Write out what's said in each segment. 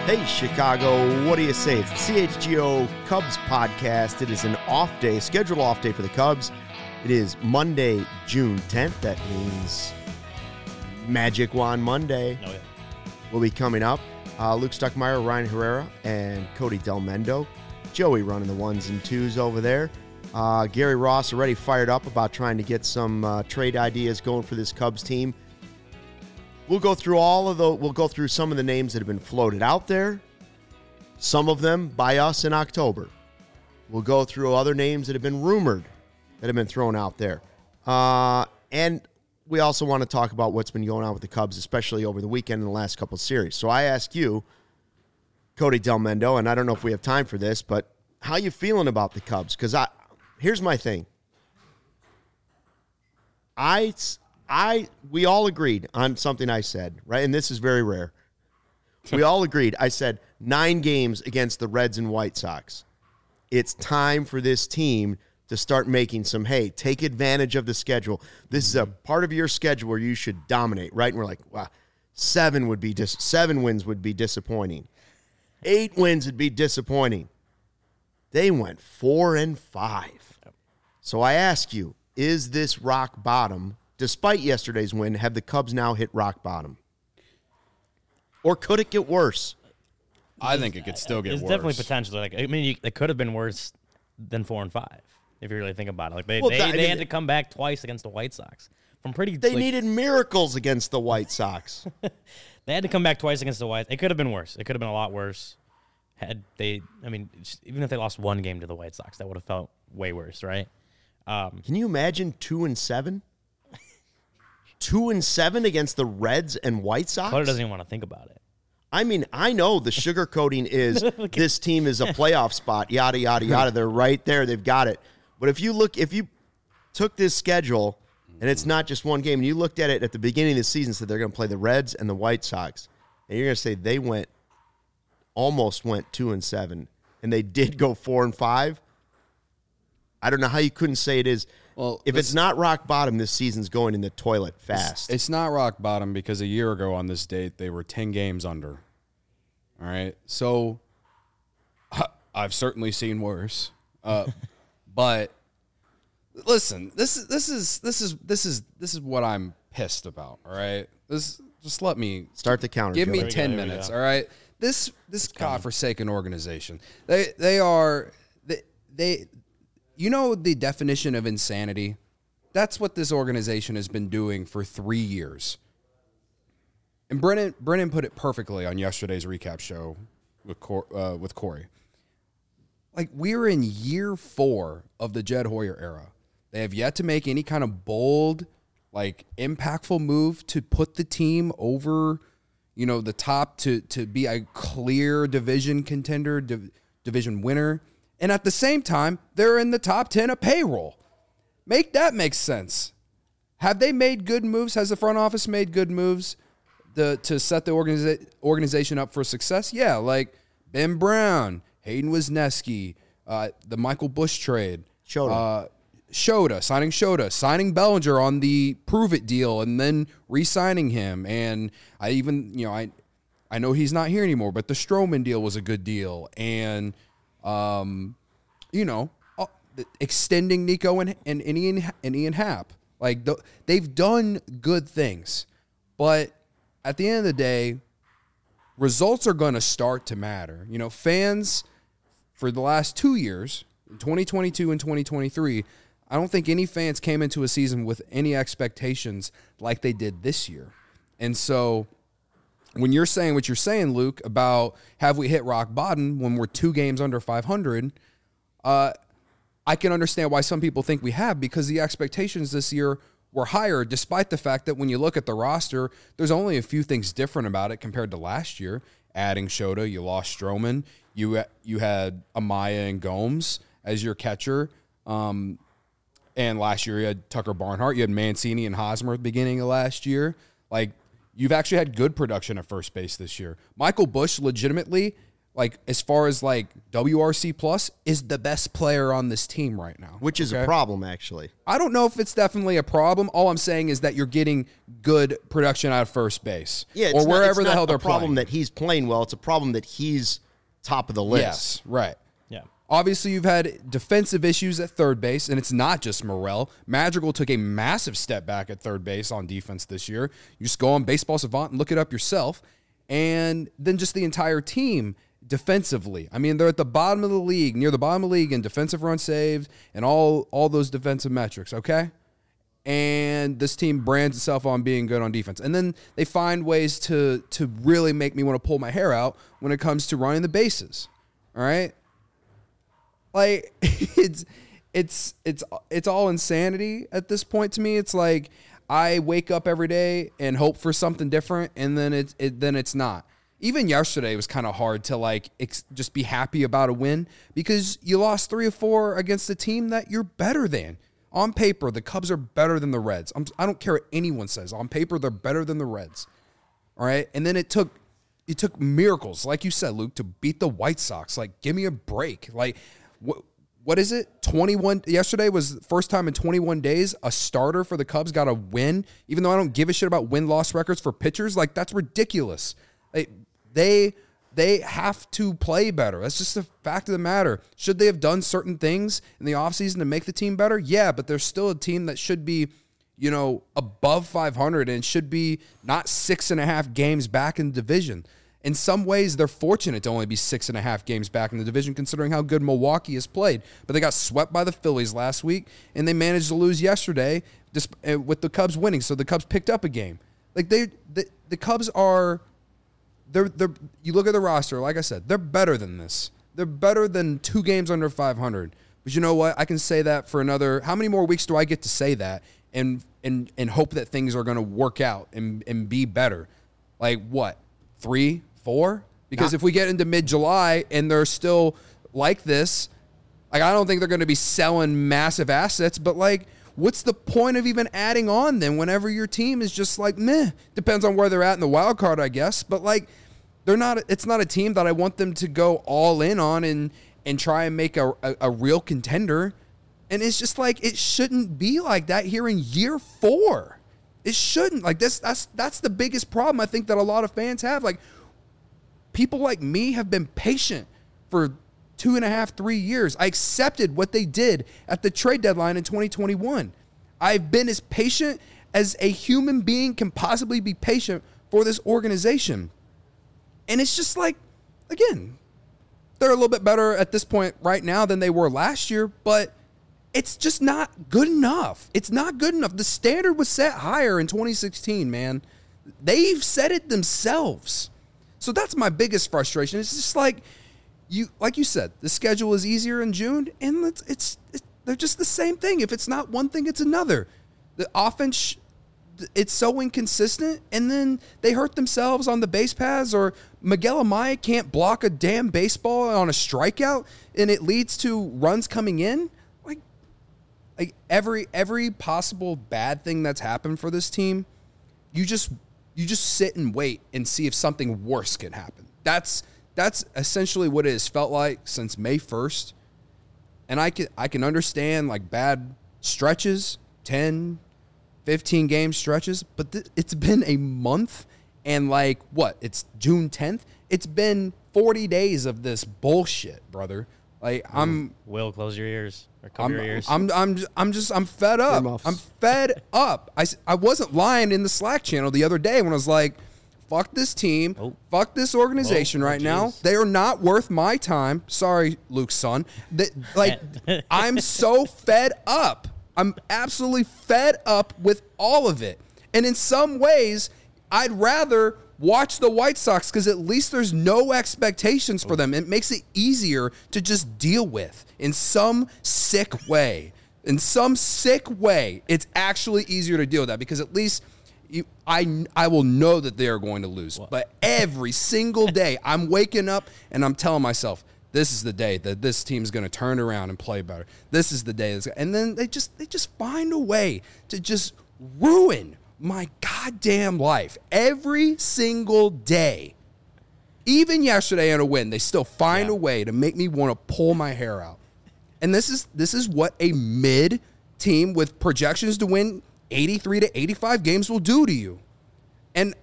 Hey, Chicago, what do you say? It's the CHGO Cubs podcast. It is an off day, scheduled off day for the Cubs. It is Monday, June 10th. That means Magic Wand Monday will be coming up. Luke Stuckmeyer, Ryan Herrera, and Cody Delmendo. Joey running the ones and twos over there. Gary Ross already fired up about trying to get some trade ideas going for this Cubs team. We'll go through we'll go through some of the names that have been floated out there, some of them by us in October. We'll go through other names that have been rumored, that have been thrown out there. And we also want to talk about what's been going on with the Cubs, especially over the weekend in the last couple of series. So I ask you, Cody Delmendo, and I don't know if we have time for this, but how you feeling about the Cubs? Because here's my thing. We all agreed on something I said, right? And this is very rare. We all agreed. I said 9 games against the Reds and White Sox. It's time for this team to start making some hay. Take advantage of the schedule. This is a part of your schedule where you should dominate, right? And we're like, wow, 7 wins would be disappointing. 8 wins would be disappointing. They went 4-5. So I ask you, is this rock bottom? Despite yesterday's win, have the Cubs now hit rock bottom? Or could it get worse? I think it could still get worse. There's definitely potential. It could have been worse than 4-5 if you really think about it. They had to come back twice against the White Sox. They needed miracles against the White Sox. They had to come back twice against the White. It could have been worse. It could have been a lot worse. Even if they lost one game to the White Sox, that would have felt way worse, right? Can you imagine 2-7? 2-7 against the Reds and White Sox? Clutter doesn't even want to think about it. I mean, I know the sugarcoating is this team is a playoff spot, yada, yada, yada. They're right there. They've got it. But if you took this schedule, and it's not just one game, and you looked at it at the beginning of the season, said they're going to play the Reds and the White Sox, and you're going to say they almost went 2-7, and they did go 4-5, I don't know how you couldn't say it is. Well, if it's not rock bottom, this season's going in the toilet fast. It's not rock bottom because a year ago on this date, they were 10 games under. All right? So I've certainly seen worse. But listen, this is what I'm pissed about, all right? Just let me start the counter. Give me 10 minutes, all right? This godforsaken organization. They you know the definition of insanity? That's what this organization has been doing for 3 years. And Brennan put it perfectly on yesterday's recap show with Corey. Like, we're in year 4 of the Jed Hoyer era. They have yet to make any kind of bold, impactful move to put the team over, the top to be a clear division contender, division winner. And at the same time, they're in the top 10 of payroll. Make that make sense. Have they made good moves? Has the front office made good moves to set the organization up for success? Yeah, like Ben Brown, Hayden Wisniewski, the Michael Busch trade. Shota, signing Shota, signing Bellinger on the Prove It deal, and then re-signing him. And I know he's not here anymore, but the Stroman deal was a good deal. And extending Nico and Ian Happ. They've done good things. But at the end of the day, results are going to start to matter. Fans for the last 2 years, 2022 and 2023, I don't think any fans came into a season with any expectations like they did this year. And so when you're saying what you're saying, Luke, about have we hit rock bottom when we're 2 games under 500, I can understand why some people think we have, because the expectations this year were higher, despite the fact that when you look at the roster, there's only a few things different about it compared to last year. Adding Shota, you lost Stroman, you had Amaya and Gomes as your catcher, and last year you had Tucker Barnhart, you had Mancini and Hosmer at the beginning of last year. You've actually had good production at first base this year. Michael Busch legitimately like as far as like WRC plus, is the best player on this team right now. Which is a problem, actually. I don't know if it's definitely a problem. All I'm saying is that you're getting good production out of first base. Yeah, or wherever the hell they're playing. It's not a problem that he's playing well. It's a problem that he's top of the list. Yes, right. Yeah. Obviously, you've had defensive issues at third base, and it's not just Morel. Madrigal took a massive step back at third base on defense this year. You just go on Baseball Savant and look it up yourself. And then just the entire team defensively. I mean, they're at the bottom of the league, near the bottom of the league in defensive runs saved and all those defensive metrics, okay? And this team brands itself on being good on defense. And then they find ways to really make me want to pull my hair out when it comes to running the bases, all right? Like, it's all insanity at this point to me. It's like I wake up every day and hope for something different, and then it's not. Even yesterday was kind of hard to like just be happy about a win because you lost 3 or 4 against a team that you're better than. On paper, the Cubs are better than the Reds. I don't care what anyone says. On paper, they're better than the Reds. All right, and then it took miracles, like you said, Luke, to beat the White Sox. Like, give me a break. Like, what is it? 21. Yesterday was the first time in 21 days a starter for the Cubs got a win. Even though I don't give a shit about win-loss records for pitchers, like that's ridiculous. Like, they have to play better. That's just the fact of the matter. Should they have done certain things in the offseason to make the team better? Yeah, but there's still a team that should be, above 500 and should be not 6.5 games back in the division. In some ways, they're fortunate to only be 6.5 games back in the division, considering how good Milwaukee has played. But they got swept by the Phillies last week, and they managed to lose yesterday with the Cubs winning. So the Cubs picked up a game. Like the Cubs are. You look at the roster, like I said, they're better than this. They're better than 2 games under 500. But you know what? I can say that for another. How many more weeks do I get to say that and hope that things are going to work out and be better? Like what? 3, 4? Because if we get into mid-July and they're still like this, like I don't think they're going to be selling massive assets. But like, what's the point of even adding on then? Whenever your team is just like meh. Depends on where they're at in the wild card, I guess. But like. It's not a team that I want them to go all in on and try and make a real contender. And it's just like, it shouldn't be like that here in year 4. It shouldn't. Like that's the biggest problem I think that a lot of fans have. Like people like me have been patient for 2.5, 3 years. I accepted what they did at the trade deadline in 2021. I've been as patient as a human being can possibly be patient for this organization. And it's just like, again, they're a little bit better at this point right now than they were last year, but it's just not good enough. It's not good enough. The standard was set higher in 2016, man. They've set it themselves. So that's my biggest frustration. It's just like you said, the schedule is easier in June, and they're just the same thing. If it's not one thing, it's another. The offense, it's so inconsistent, and then they hurt themselves on the base paths, or Miguel Amaya can't block a damn baseball on a strikeout, and it leads to runs coming in. Like every possible bad thing that's happened for this team, you just sit and wait and see if something worse can happen. That's essentially what it has felt like since May 1st. And I can understand like bad stretches, 10, 15 game stretches, but it's been a month and like what? It's June 10th. It's been 40 days of this bullshit, brother. Like Will, close your ears or cover your ears. I'm fed up. Earmuffs. I'm fed up. I wasn't lying in the Slack channel the other day when I was like, fuck this team, fuck this organization right now. They are not worth my time. Sorry, Luke's son. I'm so fed up. I'm absolutely fed up with all of it. And in some ways, I'd rather watch the White Sox because at least there's no expectations for them. It makes it easier to just deal with in some sick way. In some sick way, it's actually easier to deal with that because at least I will know that they are going to lose. But every single day, I'm waking up and I'm telling myself, this is the day that this team's going to turn around and play better. This is the day. And then they just find a way to just ruin my goddamn life every single day. Even yesterday in a win, they still find a way to make me want to pull my hair out. And this is what a mid team with projections to win 83 to 85 games will do to you. And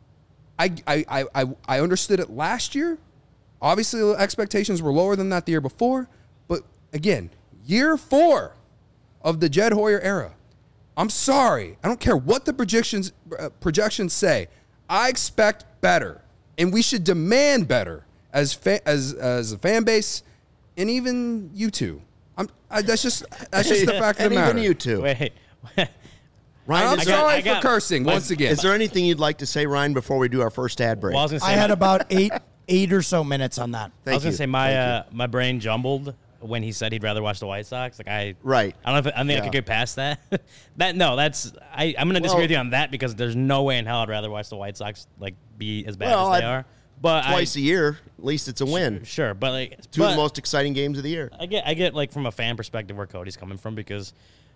I understood it last year. Obviously, the expectations were lower than that the year before. But again, year 4 of the Jed Hoyer era. I'm sorry. I don't care what the projections say. I expect better. And we should demand better as a fan base, and even you two. That's just the fact of the matter. And even you two. Wait. Ryan, I'm sorry for cursing once again. Is there anything you'd like to say, Ryan, before we do our first ad break? Well, I had about eight or so minutes on that. I was going to say my brain jumbled when he said he'd rather watch the White Sox. Right. I don't know if I could get past that. I'm going to disagree with you on that because there's no way in hell I'd rather watch the White Sox be as bad as they are. But twice a year, at least it's a win. Sure, but two of the most exciting games of the year. I get from a fan perspective where Cody's coming from because,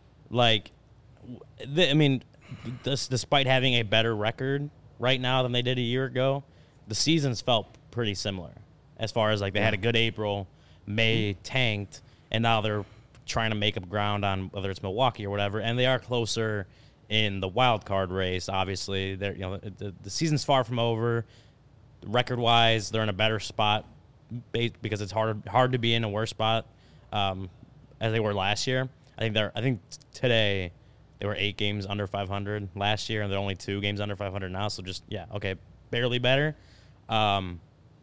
despite having a better record right now than they did a year ago, the seasons felt pretty similar as far as they had a good April, May tanked, and now they're trying to make up ground on whether it's Milwaukee or whatever, and they are closer in the wild card race. Obviously, the season's far from over. Record wise, they're in a better spot because it's hard to be in a worse spot as they were last year. I think today they were 8 games under 500 last year, and they're only 2 games under 500 now. So barely better. But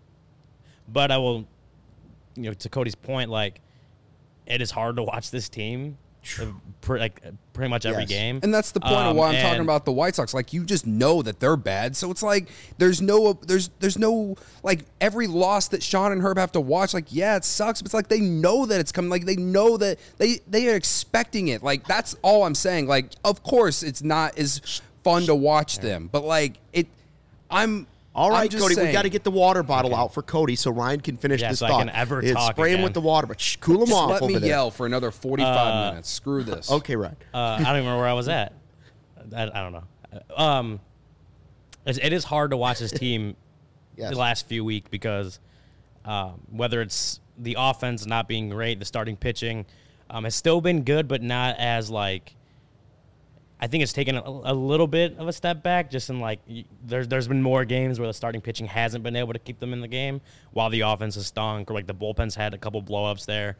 I will, to Cody's point, it is hard to watch this team pretty much every game. And that's the point of why I'm talking about the White Sox. You just know that they're bad. So it's there's no every loss that Sean and Herb have to watch. It sucks, but it's they know that it's coming. They know that they are expecting it. That's all I'm saying. Of course it's not as fun to watch them, but all right, Cody, we got to get the water bottle out for Cody so Ryan can finish this so thought. I can ever talk Spray him with the water, but cool him off over there. Let me yell for another 45 minutes. Screw this. Okay, right. I don't even remember where I was at. I don't know. It is hard to watch this team the last few weeks because whether it's the offense not being great, the starting pitching has still been good, but not as I think it's taken a little bit of a step back. Just in there's been more games where the starting pitching hasn't been able to keep them in the game, while the offense has stunk. Or the bullpen's had a couple blow-ups there.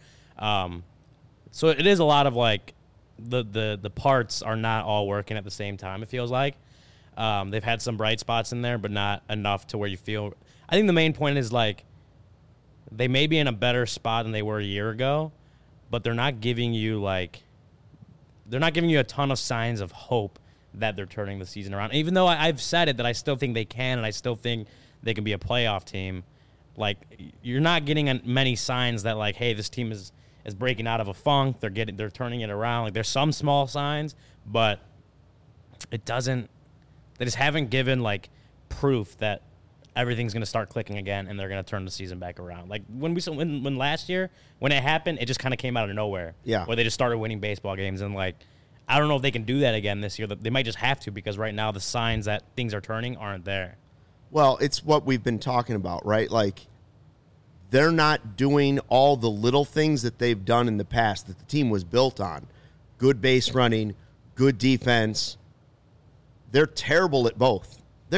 So it is a lot of the parts are not all working at the same time. It feels like they've had some bright spots in there, but not enough to where you feel. I think the main point is they may be in a better spot than they were a year ago, but they're not giving you they're not giving you a ton of signs of hope that they're turning the season around. Even though I've said it that I still think they can, and I still think they can be a playoff team, you're not getting many signs that hey, this team is breaking out of a funk. They're turning it around. There's some small signs, but it doesn't. They just haven't given proof that everything's going to start clicking again and they're going to turn the season back around. When last year, when it happened, it just kind of came out of nowhere. Yeah. Where they just started winning baseball games. And, I don't know if they can do that again this year. They might just have to because right now the signs that things are turning aren't there. Well, it's what we've been talking about, right? They're not doing all the little things that they've done in the past that the team was built on. Good base running, good defense. They're terrible at both.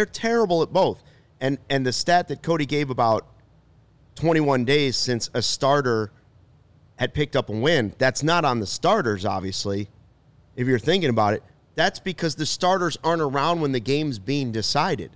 And the stat that Cody gave about 21 days since a starter had picked up a win, that's not on the starters, obviously, if you're thinking about it. That's because the starters aren't around when the game's being decided.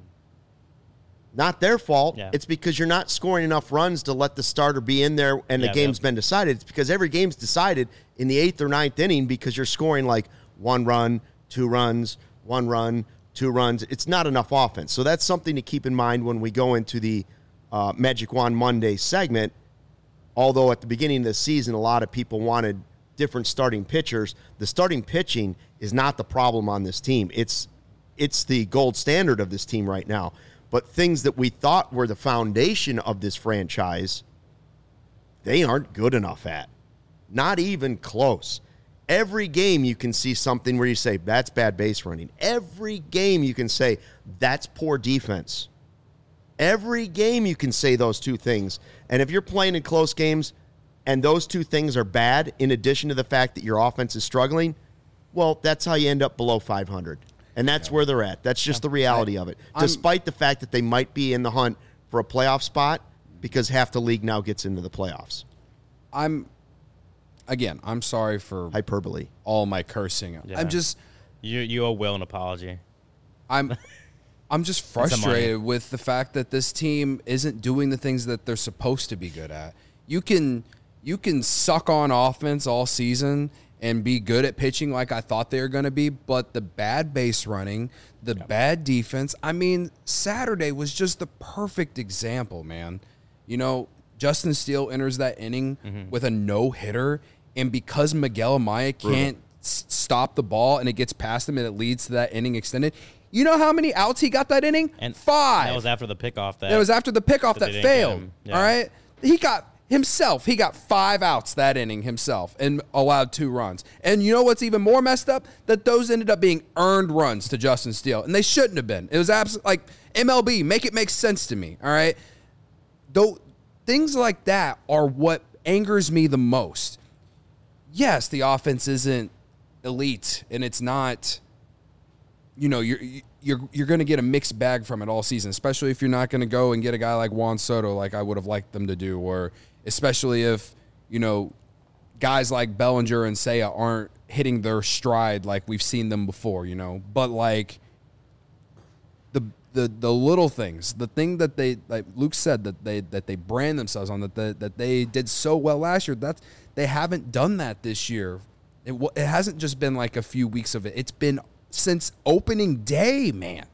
Not their fault. Yeah. It's because you're not scoring enough runs to let the starter be in there and the game's been decided. It's because every game's decided in the 8th or 9th inning because you're scoring 1 run, 2 runs, 1 run, 2 runs. It's not enough offense. So that's something to keep in mind when we go into the Magic Wand Monday segment. Although at the beginning of the season, a lot of people wanted different starting pitchers. The starting pitching is not the problem on this team. It's the gold standard of this team right now. But things that we thought were the foundation of this franchise, they aren't good enough at. Not even close. Every game you can see something where you say, that's bad base running. Every game you can say, that's poor defense. Every game you can say those two things. And if you're playing in close games and those two things are bad, in addition to the fact that your offense is struggling, well, that's how you end up below 500. And that's where they're at. That's just the reality of it. Despite the fact that they might be in the hunt for a playoff spot because half the league now gets into the playoffs. I'm sorry for hyperbole. All my cursing. Yeah. I'm just you owe Will an apology. I'm just frustrated with the fact that this team isn't doing the things that they're supposed to be good at. You can suck on offense all season and be good at pitching like I thought they were going to be, but the bad base running, the bad defense, I mean, Saturday was just the perfect example, man. You know, Justin Steele enters that inning with a no-hitter, and because Miguel Amaya can't stop the ball and it gets past him and it leads to that inning extended, you know how many outs he got that inning? And 5. That was after the pickoff. That was after the pickoff that failed. Yeah. All right? He got 5 outs that inning himself and allowed 2 runs. And you know what's even more messed up? That those ended up being earned runs to Justin Steele, and they shouldn't have been. It was absolutely like MLB, make it make sense to me, all right? Though things like that are what angers me the most. Yes, the offense isn't elite, and it's not, you know, you're going to get a mixed bag from it all season, especially if you're not going to go and get a guy like Juan Soto like I would have liked them to do, or especially if, you know, guys like Bellinger and Seiya aren't hitting their stride like we've seen them before, you know. But, like, the little things, the thing that they, like Luke said, that they brand themselves on, that they did so well last year, they haven't done that this year. It hasn't just been like a few weeks of it. It's been since opening day, man.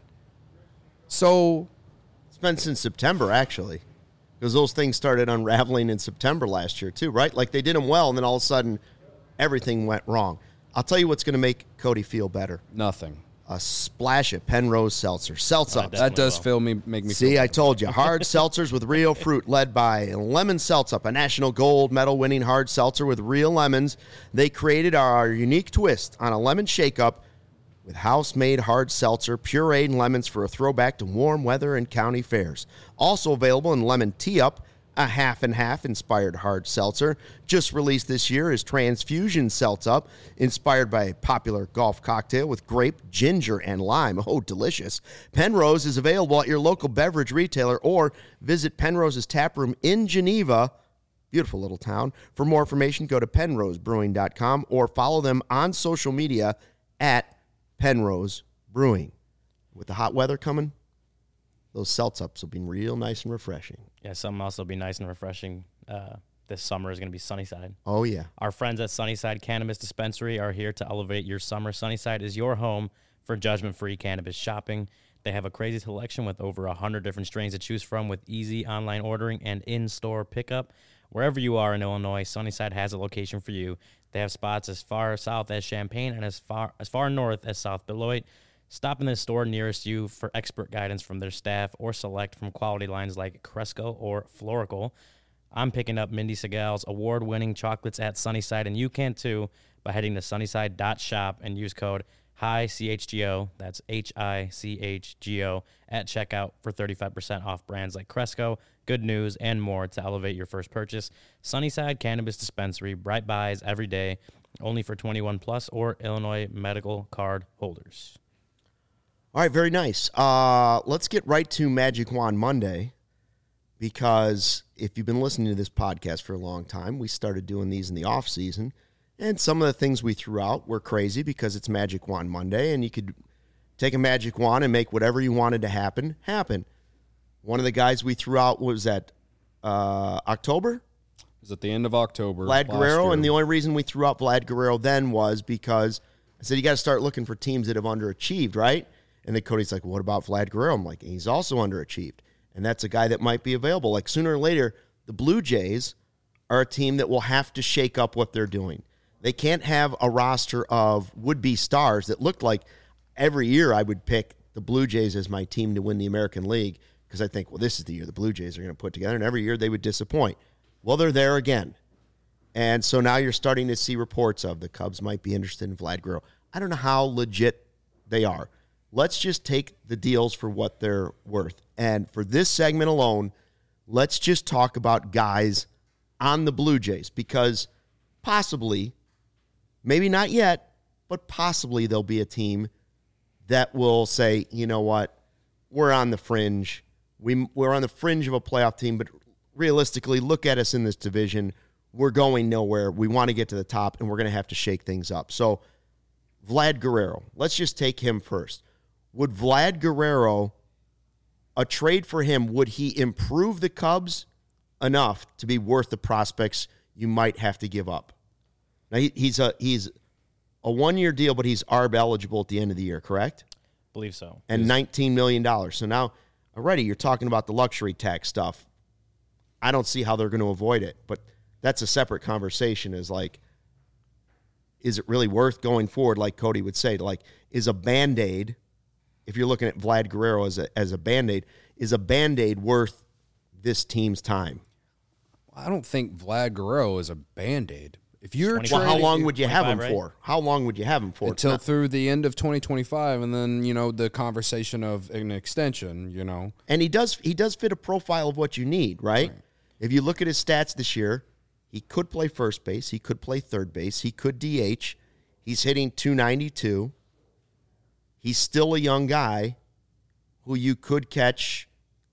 So it's been since September, actually, because those things started unraveling in September last year too, right? Like, they did them well, and then all of a sudden everything went wrong. I'll tell you what's going to make Cody feel better. Nothing. A splash of Penrose Seltzer. Seltzups. That does make me See, feel I told you. Hard seltzers with real fruit, led by Lemon Seltzup, a national gold medal winning hard seltzer with real lemons. They created our unique twist on a lemon shake-up with house-made hard seltzer, pureed lemons for a throwback to warm weather and county fairs. Also available in lemon tea-up, a half-and-half inspired hard seltzer. Just released this year is Transfusion Seltzup, inspired by a popular golf cocktail with grape, ginger, and lime. Oh, delicious. Penrose is available at your local beverage retailer, or visit Penrose's taproom in Geneva, beautiful little town. For more information, go to penrosebrewing.com or follow them on social media at Penrose Brewing. With the hot weather coming, those Seltzups will be real nice and refreshing. Yeah, something else will be nice and refreshing this summer is going to be Sunnyside. Oh, yeah. Our friends at Sunnyside Cannabis Dispensary are here to elevate your summer. Sunnyside is your home for judgment-free cannabis shopping. They have a crazy selection with over 100 different strains to choose from, with easy online ordering and in-store pickup. Wherever you are in Illinois, Sunnyside has a location for you. They have spots as far south as Champaign and as far north as South Beloit. Stop in the store nearest you for expert guidance from their staff, or select from quality lines like Cresco or Florical. I'm picking up Mindy Segal's award-winning chocolates at Sunnyside, and you can too by heading to sunnyside.shop and use code HICHGO, that's HICHGO, at checkout for 35% off brands like Cresco, Good News, and more to elevate your first purchase. Sunnyside Cannabis Dispensary, bright buys every day, only for 21 plus or Illinois medical card holders. All right, very nice. Let's get right to Magic Wand Monday, because if you've been listening to this podcast for a long time, we started doing these in the off season, and some of the things we threw out were crazy because it's Magic Wand Monday, and you could take a magic wand and make whatever you wanted to happen. One of the guys we threw out was at October. It was at the end of October. Vlad Guerrero, and the only reason we threw out Vlad Guerrero then was because I said you got to start looking for teams that have underachieved, right? And then Cody's like, what about Vlad Guerrero? I'm like, he's also underachieved. And that's a guy that might be available. Like, sooner or later, the Blue Jays are a team that will have to shake up what they're doing. They can't have a roster of would-be stars that looked like every year I would pick the Blue Jays as my team to win the American League, because I think, well, this is the year the Blue Jays are going to put together, and every year they would disappoint. Well, they're there again. And so now you're starting to see reports of the Cubs might be interested in Vlad Guerrero. I don't know how legit they are. let's just take the deals for what they're worth. And for this segment alone, let's just talk about guys on the Blue Jays, because possibly, maybe not yet, but possibly there'll be a team that will say, you know what, we're on the fringe. We're on the fringe of a playoff team, but realistically, look at us in this division. We're going nowhere. We want to get to the top, and we're going to have to shake things up. So, Vlad Guerrero, let's just take him first. Would Vlad Guerrero, a trade for him, would he improve the Cubs enough to be worth the prospects you might have to give up? Now, he's a 1-year deal, but he's ARB eligible at the end of the year, correct? Believe so. And $19 million. So now, already you're talking about the luxury tax stuff. I don't see how they're going to avoid it, but that's a separate conversation. Is like, is it really worth going forward? Like Cody would say, like, is a Band-Aid, if you're looking at Vlad Guerrero as a Band-Aid, is a Band-Aid worth this team's time? I don't think Vlad Guerrero is a Band-Aid. If you're trading, how long would you have him for? How long would you have him for? Until through the end of 2025, and then, the conversation of an extension, And he does fit a profile of what you need, right? If you look at his stats this year, he could play first base, he could play third base, he could DH. He's hitting .292. He's still a young guy who you could catch.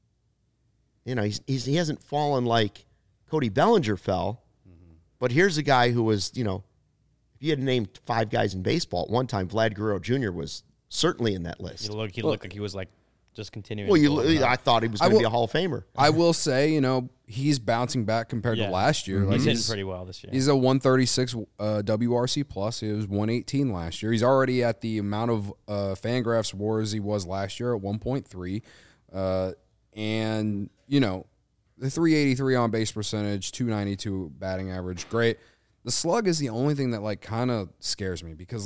He hasn't fallen like Cody Bellinger fell. But here's a guy who was, if you had named 5 guys in baseball at one time, Vlad Guerrero Jr. was certainly in that list. He looked like he was like just continuing. Well, I thought he was going to be a Hall of Famer. I will say, he's bouncing back compared to last year. He's hitting pretty well this year. He's a 136 WRC plus. He was 118 last year. He's already at the amount of Fangraphs WAR as he was last year at 1.3. And, the 383 on base percentage, 292 batting average, great. The slug is the only thing that kind of scares me, because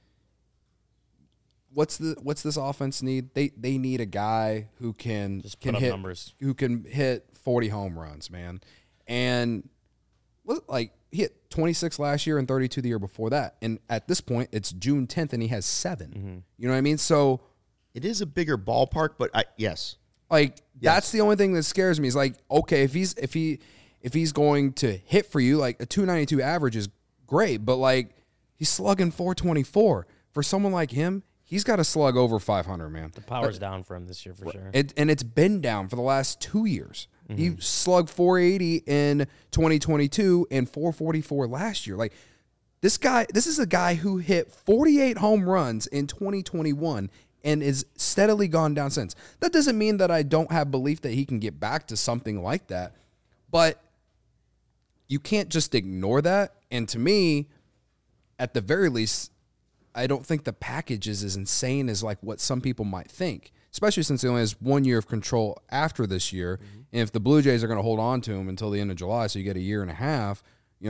what's this offense need? They need a guy who can hit numbers, who can hit 40 home runs, man. And he hit 26 last year and 32 the year before that. And at this point, it's June 10th and he has 7. Mm-hmm. You know what I mean? So it is a bigger ballpark, but yes. That's the only thing that scares me is okay, if he's going to hit for you, a 292 average is great, but he's slugging 424. For someone like him, he's got to slug over 500, man. The power's down for him this year for sure. And it's been down for the last 2 years. Mm-hmm. He slugged 480 in 2022 and 444 last year. This is a guy who hit 48 home runs in 2021 and is steadily gone down since. That doesn't mean that I don't have belief that he can get back to something like that, but you can't just ignore that. And to me, at the very least, I don't think the package is as insane as what some people might think, especially since he only has 1 year of control after this year. Mm-hmm. And if the Blue Jays are going to hold on to him until the end of July, so you get a year and a half,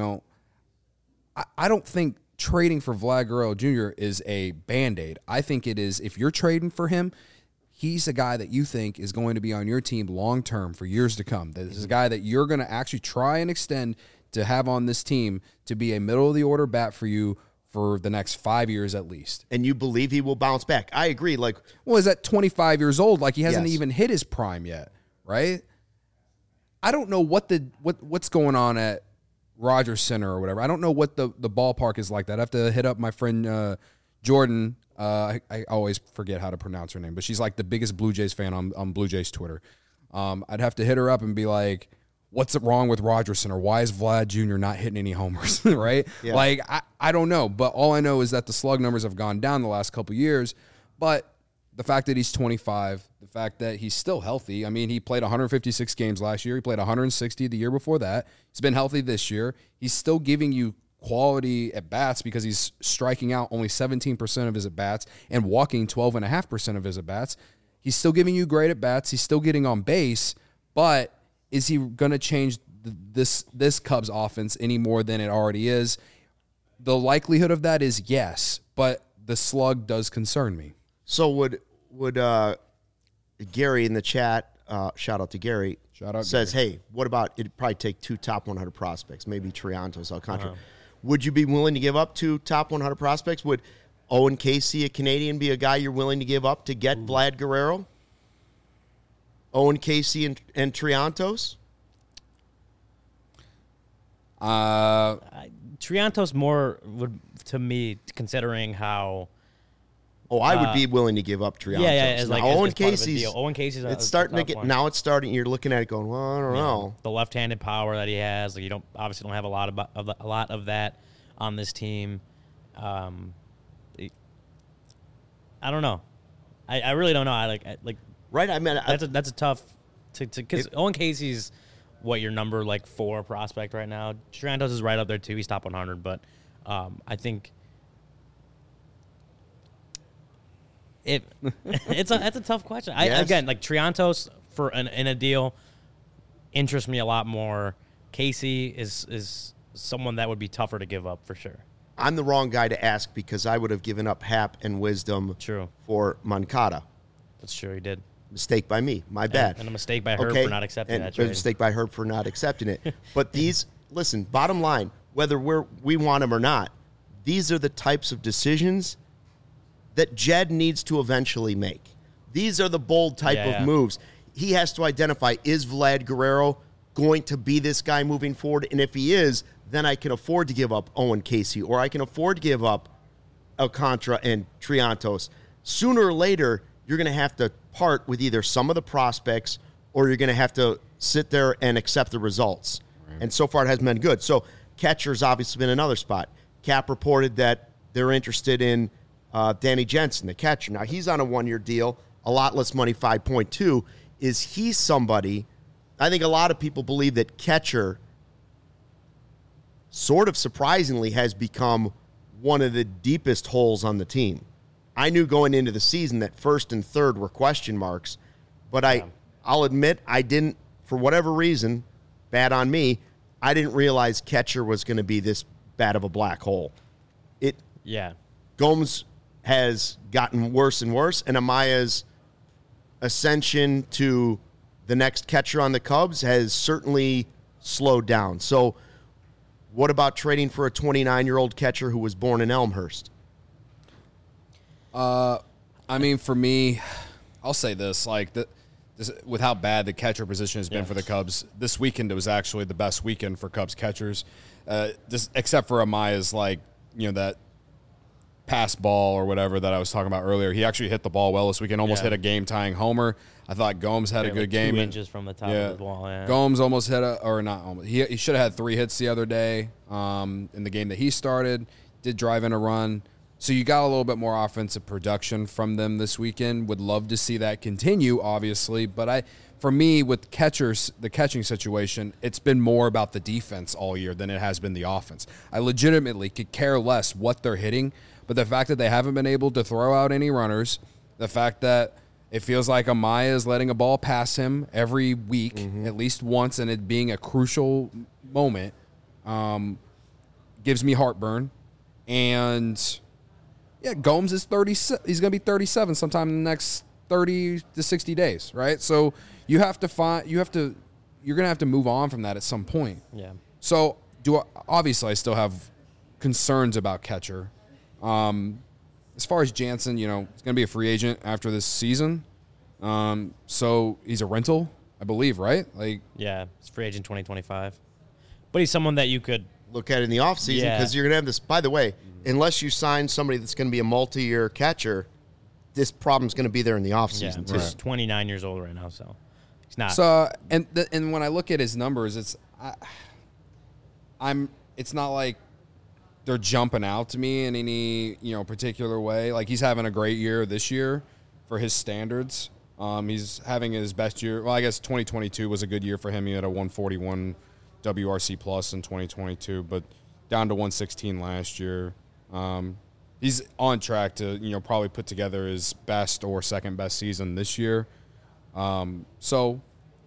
I don't think trading for Vlad Guerrero Jr. is a Band-Aid. I think it is, if you're trading for him, he's a guy that you think is going to be on your team long-term for years to come. This is a guy that you're going to actually try and extend to have on this team to be a middle-of-the-order bat for you for the next 5 years at least. And you believe he will bounce back. I agree. He's at 25 years old. He hasn't even hit his prime yet, right? I don't know what's going on at Rogers Center or whatever. I don't know what the ballpark is like that. I have to hit up my friend Jordan. I always forget how to pronounce her name, but she's the biggest Blue Jays fan on Blue Jays Twitter. I'd have to hit her up and be like, what's wrong with Rogers Center? Why is Vlad Jr. not hitting any homers, right? Yeah. I don't know, but all I know is that the slug numbers have gone down the last couple years, but the fact that he's 25, the fact that he's still healthy. I mean, he played 156 games last year. He played 160 the year before that. He's been healthy this year. He's still giving you quality at bats because he's striking out only 17% of his at bats and walking 12.5% of his at bats. He's still giving you great at bats. He's still getting on base, but is he going to change this Cubs offense any more than it already is? The likelihood of that is yes, but the slug does concern me. So would Gary in the chat, shout out to Gary, says, Gary. Hey, what about, it'd probably take 2 top 100 prospects, maybe Triantos, Alcantara. Would you be willing to give up 2 top 100 prospects? Owen Casey, a Canadian, be a guy you're willing to give up to get Vlad Guerrero? Owen Casey and Triantos? Triantos more would, to me, considering how. Oh, I would be willing to give up Triantos. Yeah. Now, Owen Casey's. Owen Casey's. It's starting to get. Now it's starting. You're looking at it going, well, I don't know. The left-handed power that he has. Like, you don't have a lot of that on this team. I don't know. I really don't know. I right. I mean, that's a tough because Owen Casey's what your number 4 prospect right now. Triantos is right up there too. He's top 100, but I think that's a tough question. Yes. Again, Triantos in a deal interests me a lot more. Casey is someone that would be tougher to give up for sure. I'm the wrong guy to ask because I would have given up Hap and Wisdom for Moncada. That's true, he did. Mistake by me. My bad. And a mistake by Herb for not accepting that trade. A mistake by Herb for not accepting it. But listen, bottom line, whether we want him or not, these are the types of decisions that Jed needs to eventually make. These are the bold type of moves. He has to identify, is Vlad Guerrero going to be this guy moving forward? And if he is, then I can afford to give up Owen Casey, or I can afford to give up Alcantara and Triantos. Sooner or later, you're going to have to part with either some of the prospects, or you're going to have to sit there and accept the results. Right. And so far, it hasn't been good. So catcher's obviously been another spot. Cap reported that they're interested in Danny Jensen, the catcher. Now, he's on a one-year deal, a lot less money, 5.2. Is he somebody, I think a lot of people believe that catcher sort of surprisingly has become one of the deepest holes on the team. I knew going into the season that first and third were question marks, but I'll admit I didn't, for whatever reason, bad on me, I didn't realize catcher was going to be this bad of a black hole. Gomes has gotten worse and worse, and Amaya's ascension to the next catcher on the Cubs has certainly slowed down. So what about trading for a 29-year-old catcher who was born in Elmhurst? I mean, for me, I'll say this: with how bad the catcher position has been for the Cubs, this weekend it was actually the best weekend for Cubs catchers, except for Amaya's that pass ball or whatever that I was talking about earlier. He actually hit the ball well this weekend, almost hit a game-tying homer. I thought Gomes had a good game. 2 inches from the top of the ball. Yeah. Gomes almost hit he should have had 3 hits the other day in the game that he started. Did drive in a run. So you got a little bit more offensive production from them this weekend. Would love to see that continue, obviously. But for me, with catchers, the catching situation, it's been more about the defense all year than it has been the offense. I legitimately could care less what they're hitting, but the fact that they haven't been able to throw out any runners, the fact that it feels like Amaya is letting a ball pass him every week, at least once, and it being a crucial moment, gives me heartburn. And Gomes is 30. He's going to be 37 sometime in the next 30 to 60 days, right? So you're going to have to move on from that at some point. Yeah. So obviously I still have concerns about catcher. As far as Jansen, he's going to be a free agent after this season. So he's a rental, I believe, right? He's free agent 2025. But he's someone that you could look at in the offseason because you're going to have this. By the way, unless you sign somebody that's going to be a multi-year catcher, this problem's going to be there in the offseason too. He's 29 years old right now, so he's not. So and when I look at his numbers, it's not like they're jumping out to me in any particular way. Like, he's having a great year this year for his standards. He's having his best year. Well, I guess 2022 was a good year for him. He had a 141 WRC plus in 2022, but down to 116 last year. He's on track to probably put together his best or second best season this year. So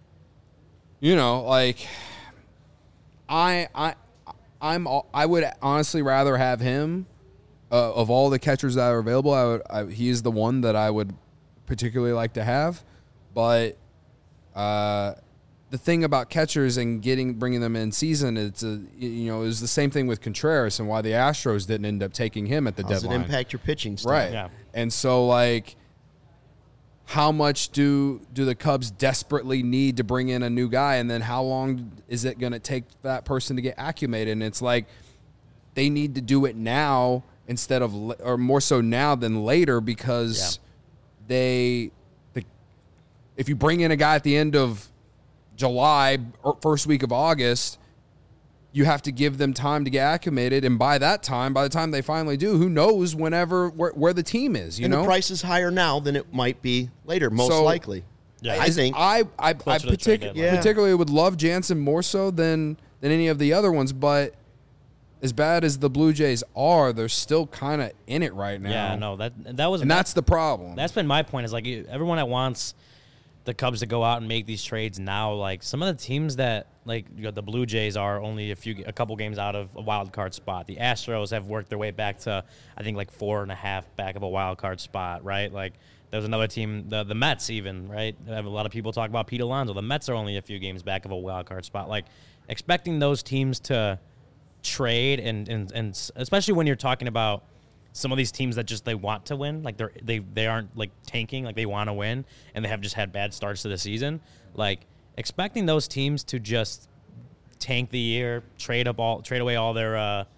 I would honestly rather have him of all the catchers that are available. He is the one that I would particularly like to have, but the thing about catchers and bringing them in season, it was the same thing with Contreras and why the Astros didn't end up taking him at the deadline. Does it impact your pitching style? Right. Yeah. And so, like, how much do the Cubs desperately need to bring in a new guy, and then how long is it going to take that person to get acclimated? And it's like they need to do it now or more so now than later, because if you bring in a guy at the end of July or first week of August, you have to give them time to get acclimated, and by the time they finally do, who knows where the team is, you know? The price is higher now than it might be later, most likely. Yeah. I think. I particularly would love Jansen more so than any of the other ones, but as bad as the Blue Jays are, they're still kind of in it right now. Yeah, no, that's the problem. That's been my point. Is like everyone that wants the Cubs to go out and make these trades now, like some of the teams that the Blue Jays are only a couple games out of a wild card spot. The Astros have worked their way back to, I think, 4.5 back of a wild card spot, right? Like there's another team, the Mets even, right? I have a lot of people talk about Pete Alonso. The Mets are only a few games back of a wild card spot. Like expecting those teams to trade and especially when you're talking about some of these teams that just they want to win, like they aren't like tanking, like they want to win, and they have just had bad starts to the season. Like expecting those teams to just tank the year, trade away all their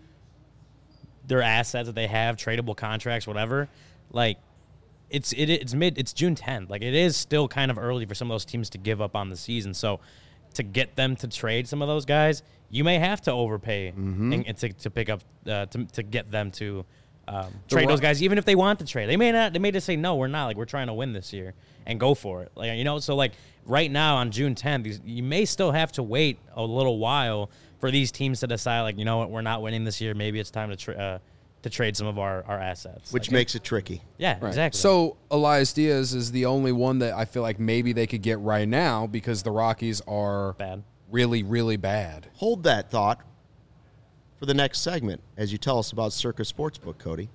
assets that they have, tradable contracts, whatever. Like it's June 10th. Like it is still kind of early for some of those teams to give up on the season. So to get them to trade some of those guys, you may have to overpay and to pick up to get them to. Trade those guys, even if they want to trade. They may not. They may just say, no, we're not. Like, we're trying to win this year and go for it. Like, you know, so like right now on June 10th, you may still have to wait a little while for these teams to decide, like, you know what, we're not winning this year. Maybe it's time to trade some of our assets. Which makes it tricky. Yeah, right. Exactly. So Elias Diaz is the only one that I feel like maybe they could get right now because the Rockies are bad. Really, really bad. Hold that thought for the next segment as you tell us about Circa Sportsbook, Cody.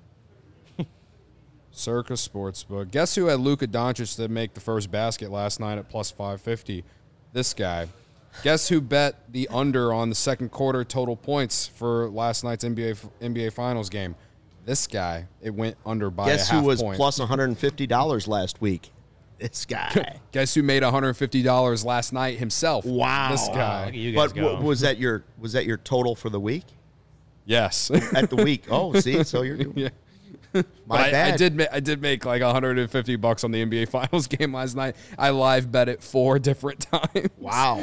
Circa Sportsbook. Guess who had Luka Doncic to make the first basket last night at plus 550? This guy. Guess who bet the under on the second quarter total points for last night's NBA Finals game? This guy. It went under by a half point. Guess who was plus $150 last week? This guy. Guess who made $150 last night himself? Wow. This guy. Look at you guys go. Was that your total for the week? Yes. At the week. Oh, see, so you're doing. Yeah. My bad. I did make like $150 on the NBA Finals game last night. I live bet it 4 different times. Wow.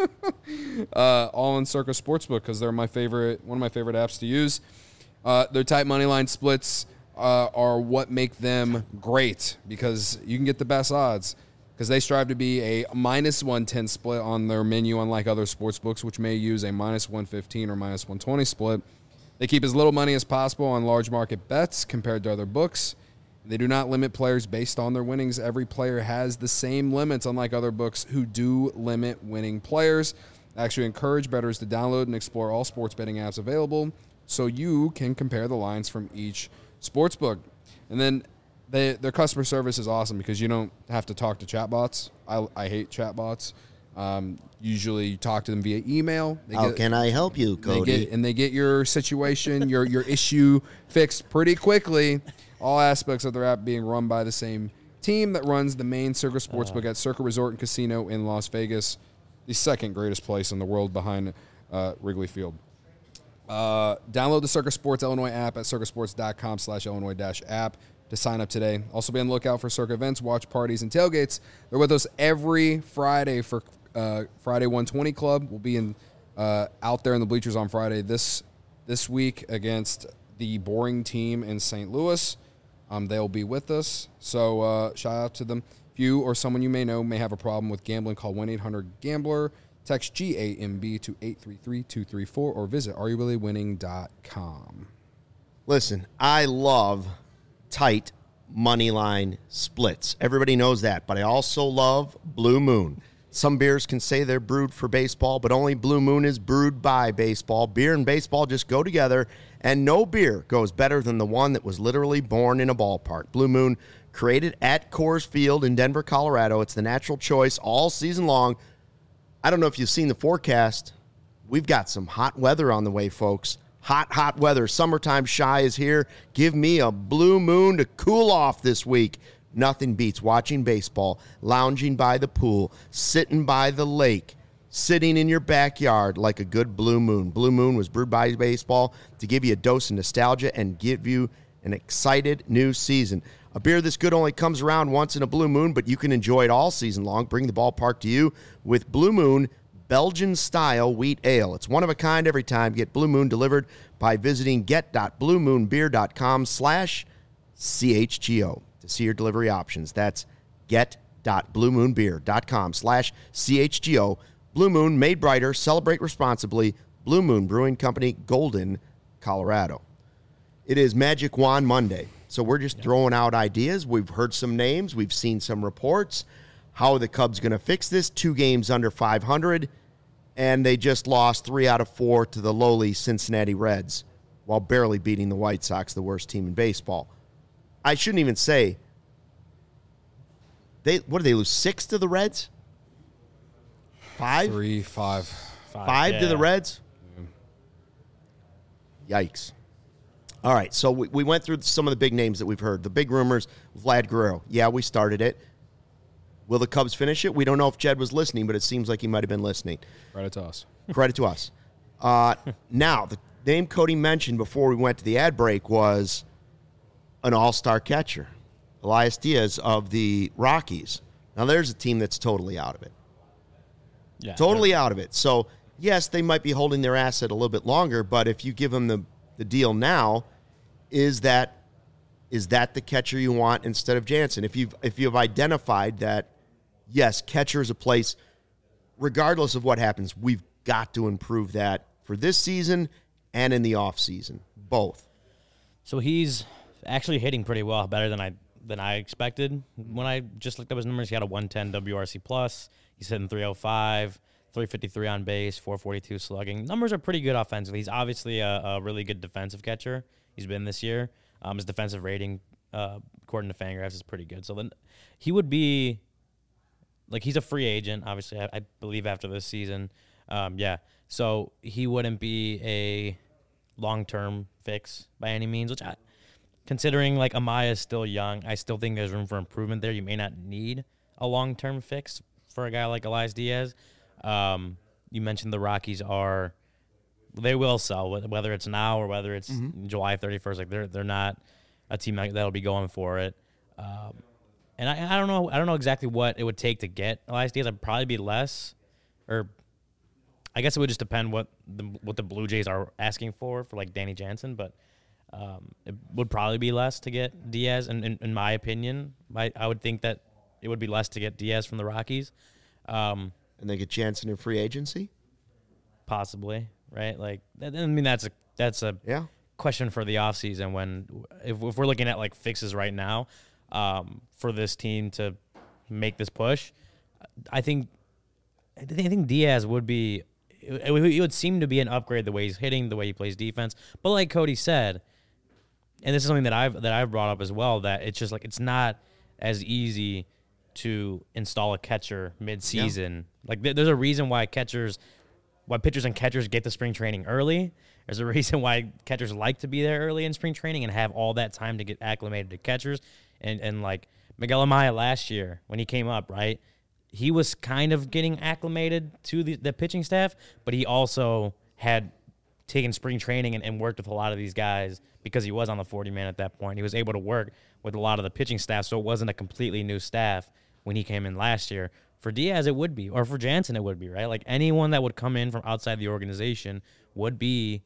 All in Circa Sportsbook because they're one of my favorite apps to use. Their tight money line splits are what make them great because you can get the best odds because they strive to be a minus 110 split on their menu, unlike other sportsbooks, which may use a minus 115 or minus 120 split. They keep as little money as possible on large market bets compared to other books. They do not limit players based on their winnings. Every player has the same limits, unlike other books who do limit winning players. I actually encourage bettors to download and explore all sports betting apps available so you can compare the lines from each sportsbook. And then their customer service is awesome because you don't have to talk to chatbots. I hate chatbots. Usually you talk to them via email. How can I help you, Cody? They get your situation, your issue fixed pretty quickly. All aspects of their app being run by the same team that runs the main Circa Sportsbook at Circa Resort and Casino in Las Vegas, the second greatest place in the world behind Wrigley Field. Download the Circa Sports Illinois app at circasports.com/Illinois-app to sign up today. Also be on the lookout for Circa events, watch parties, and tailgates. They're with us every Friday for Friday 120 Club. We'll be out there in the bleachers on Friday this week against the boring team in St. Louis. They'll be with us, so shout out to them. If you or someone you may know may have a problem with gambling, call 1-800-GAMBLER. Text GAMB to 833-234 or visit areyourreallywinning.com. Listen, I love tight money line splits. Everybody knows that, but I also love Blue Moon. Some beers can say they're brewed for baseball, but only Blue Moon is brewed by baseball. Beer and baseball just go together, and no beer goes better than the one that was literally born in a ballpark. Blue Moon, created at Coors Field in Denver, Colorado. It's the natural choice all season long. I don't know if you've seen the forecast. We've got some hot weather on the way, folks. Hot weather. Summertime shy is here. Give me a blue moon to cool off this week. Nothing beats watching baseball, lounging by the pool, sitting by the lake, sitting in your backyard like a good blue moon. Blue Moon was brewed by baseball to give you a dose of nostalgia and give you an excited new season. A beer this good only comes around once in a blue moon, but you can enjoy it all season long. Bring the ballpark to you with Blue Moon Belgian-style wheat ale. It's one of a kind every time. Get Blue Moon delivered by visiting get.bluemoonbeer.com/CHGO to see your delivery options. That's get.bluemoonbeer.com/CHGO. Blue Moon, made brighter. Celebrate responsibly. Blue Moon Brewing Company, Golden, Colorado. It is Magic Wand Monday, so we're just throwing out ideas. We've heard some names. We've seen some reports. How are the Cubs going to fix this? 2 games under 500, and they just lost 3 out of 4 to the lowly Cincinnati Reds while barely beating the White Sox, the worst team in baseball. I shouldn't even say. What did they lose? 6 to the Reds? 5? 3, 5. 5 to the Reds? Yikes. All right, so we went through some of the big names that we've heard. The big rumors, Vlad Guerrero. Yeah, we started it. Will the Cubs finish it? We don't know if Jed was listening, but it seems like he might have been listening. Credit to us. Credit to us. Now, the name Cody mentioned before we went to the ad break was an all-star catcher, Elias Diaz of the Rockies. Now, there's a team that's totally out of it. Yeah, totally out of it. So, yes, they might be holding their asset a little bit longer, but if you give them the deal now, is that the catcher you want instead of Jansen? If you've identified that, yes, catcher is a place, regardless of what happens, we've got to improve that for this season and in the offseason, both. So he's actually hitting pretty well, better than I expected. When I just looked up his numbers, he had a 110 WRC plus. He's hitting 305, 353 on base, 442 slugging. Numbers are pretty good offensively. He's obviously a really good defensive catcher. He's been this year. His defensive rating, according to Fangraphs, is pretty good. So then he would be, like, he's a free agent, obviously, I believe, after this season. So he wouldn't be a long-term fix by any means, which considering, like, Amaya is still young, I still think there's room for improvement there. You may not need a long-term fix for a guy like Elias Diaz. You mentioned the Rockies they will sell, whether it's now or whether it's July 31st. Like they're not a team that'll be going for it. And I don't know exactly what it would take to get Elias Diaz. I'd probably be less, or I guess it would just depend what the Blue Jays are asking for like Danny Jansen. But it would probably be less to get Diaz. And in my opinion, I would think that it would be less to get Diaz from the Rockies. And they get Jansen in free agency? Possibly, right? Like, I mean, that's a question for the offseason when if we're looking at, like, fixes right now for this team to make this push, I think Diaz would be – it would seem to be an upgrade the way he's hitting, the way he plays defense. But like Cody said, and this is something that I've brought up as well, that it's just like it's not as easy – to install a catcher mid-season. Yeah. Like there's a reason why pitchers and catchers get to spring training early. There's a reason why catchers like to be there early in spring training and have all that time to get acclimated to catchers. And like Miguel Amaya last year when he came up, right? He was kind of getting acclimated to the pitching staff, but he also had taken spring training and worked with a lot of these guys because he was on the 40-man at that point. He was able to work with a lot of the pitching staff, so it wasn't a completely new staff when he came in last year. For Diaz, it would be, or for Jansen, it would be, right? Like anyone that would come in from outside the organization would be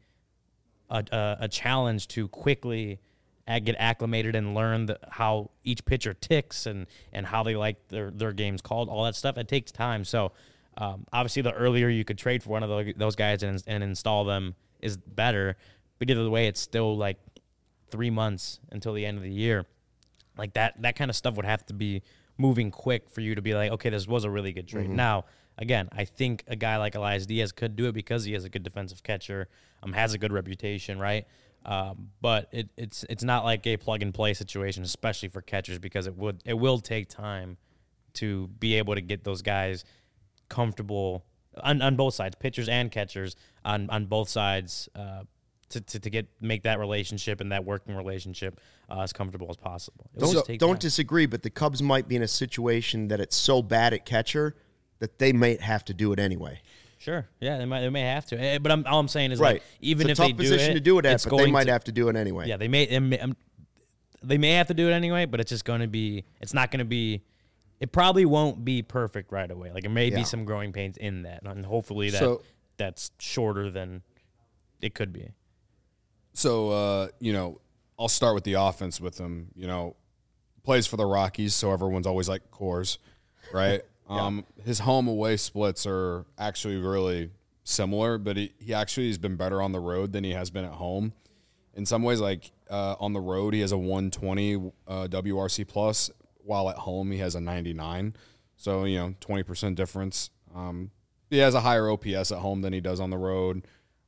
a challenge to quickly get acclimated and learn how each pitcher ticks and how they like their games called, all that stuff. It takes time. So obviously the earlier you could trade for one of those guys and install them is better. But either way, it's still like 3 months until the end of the year. Like that kind of stuff would have to be moving quick for you to be like, okay, this was a really good trade. Mm-hmm. Now, again, I think a guy like Elias Diaz could do it because he has a good defensive catcher, has a good reputation, right? But it's not like a plug-and-play situation, especially for catchers, because it will take time to be able to get those guys comfortable on both sides, pitchers and catchers on both sides, to make that relationship and that working relationship as comfortable as possible. Don't disagree, but the Cubs might be in a situation that it's so bad at catcher that they might have to do it anyway. Sure, yeah, they may have to. But all I'm saying is, right. like, even it's if a they tough position to do it at, but they might have to do it anyway. Yeah, they may have to do it anyway, but it's just going to be. It's not going to be. It probably won't be perfect right away. Like, it may be some growing pains in that, and hopefully that's shorter than it could be. So, I'll start with the offense with him. Plays for the Rockies, so everyone's always like Coors, right? His home away splits are actually really similar, but he actually has been better on the road than he has been at home. In some ways, like on the road, he has a 120 WRC plus, while at home he has a 99. So, 20% difference. He has a higher OPS at home than he does on the road.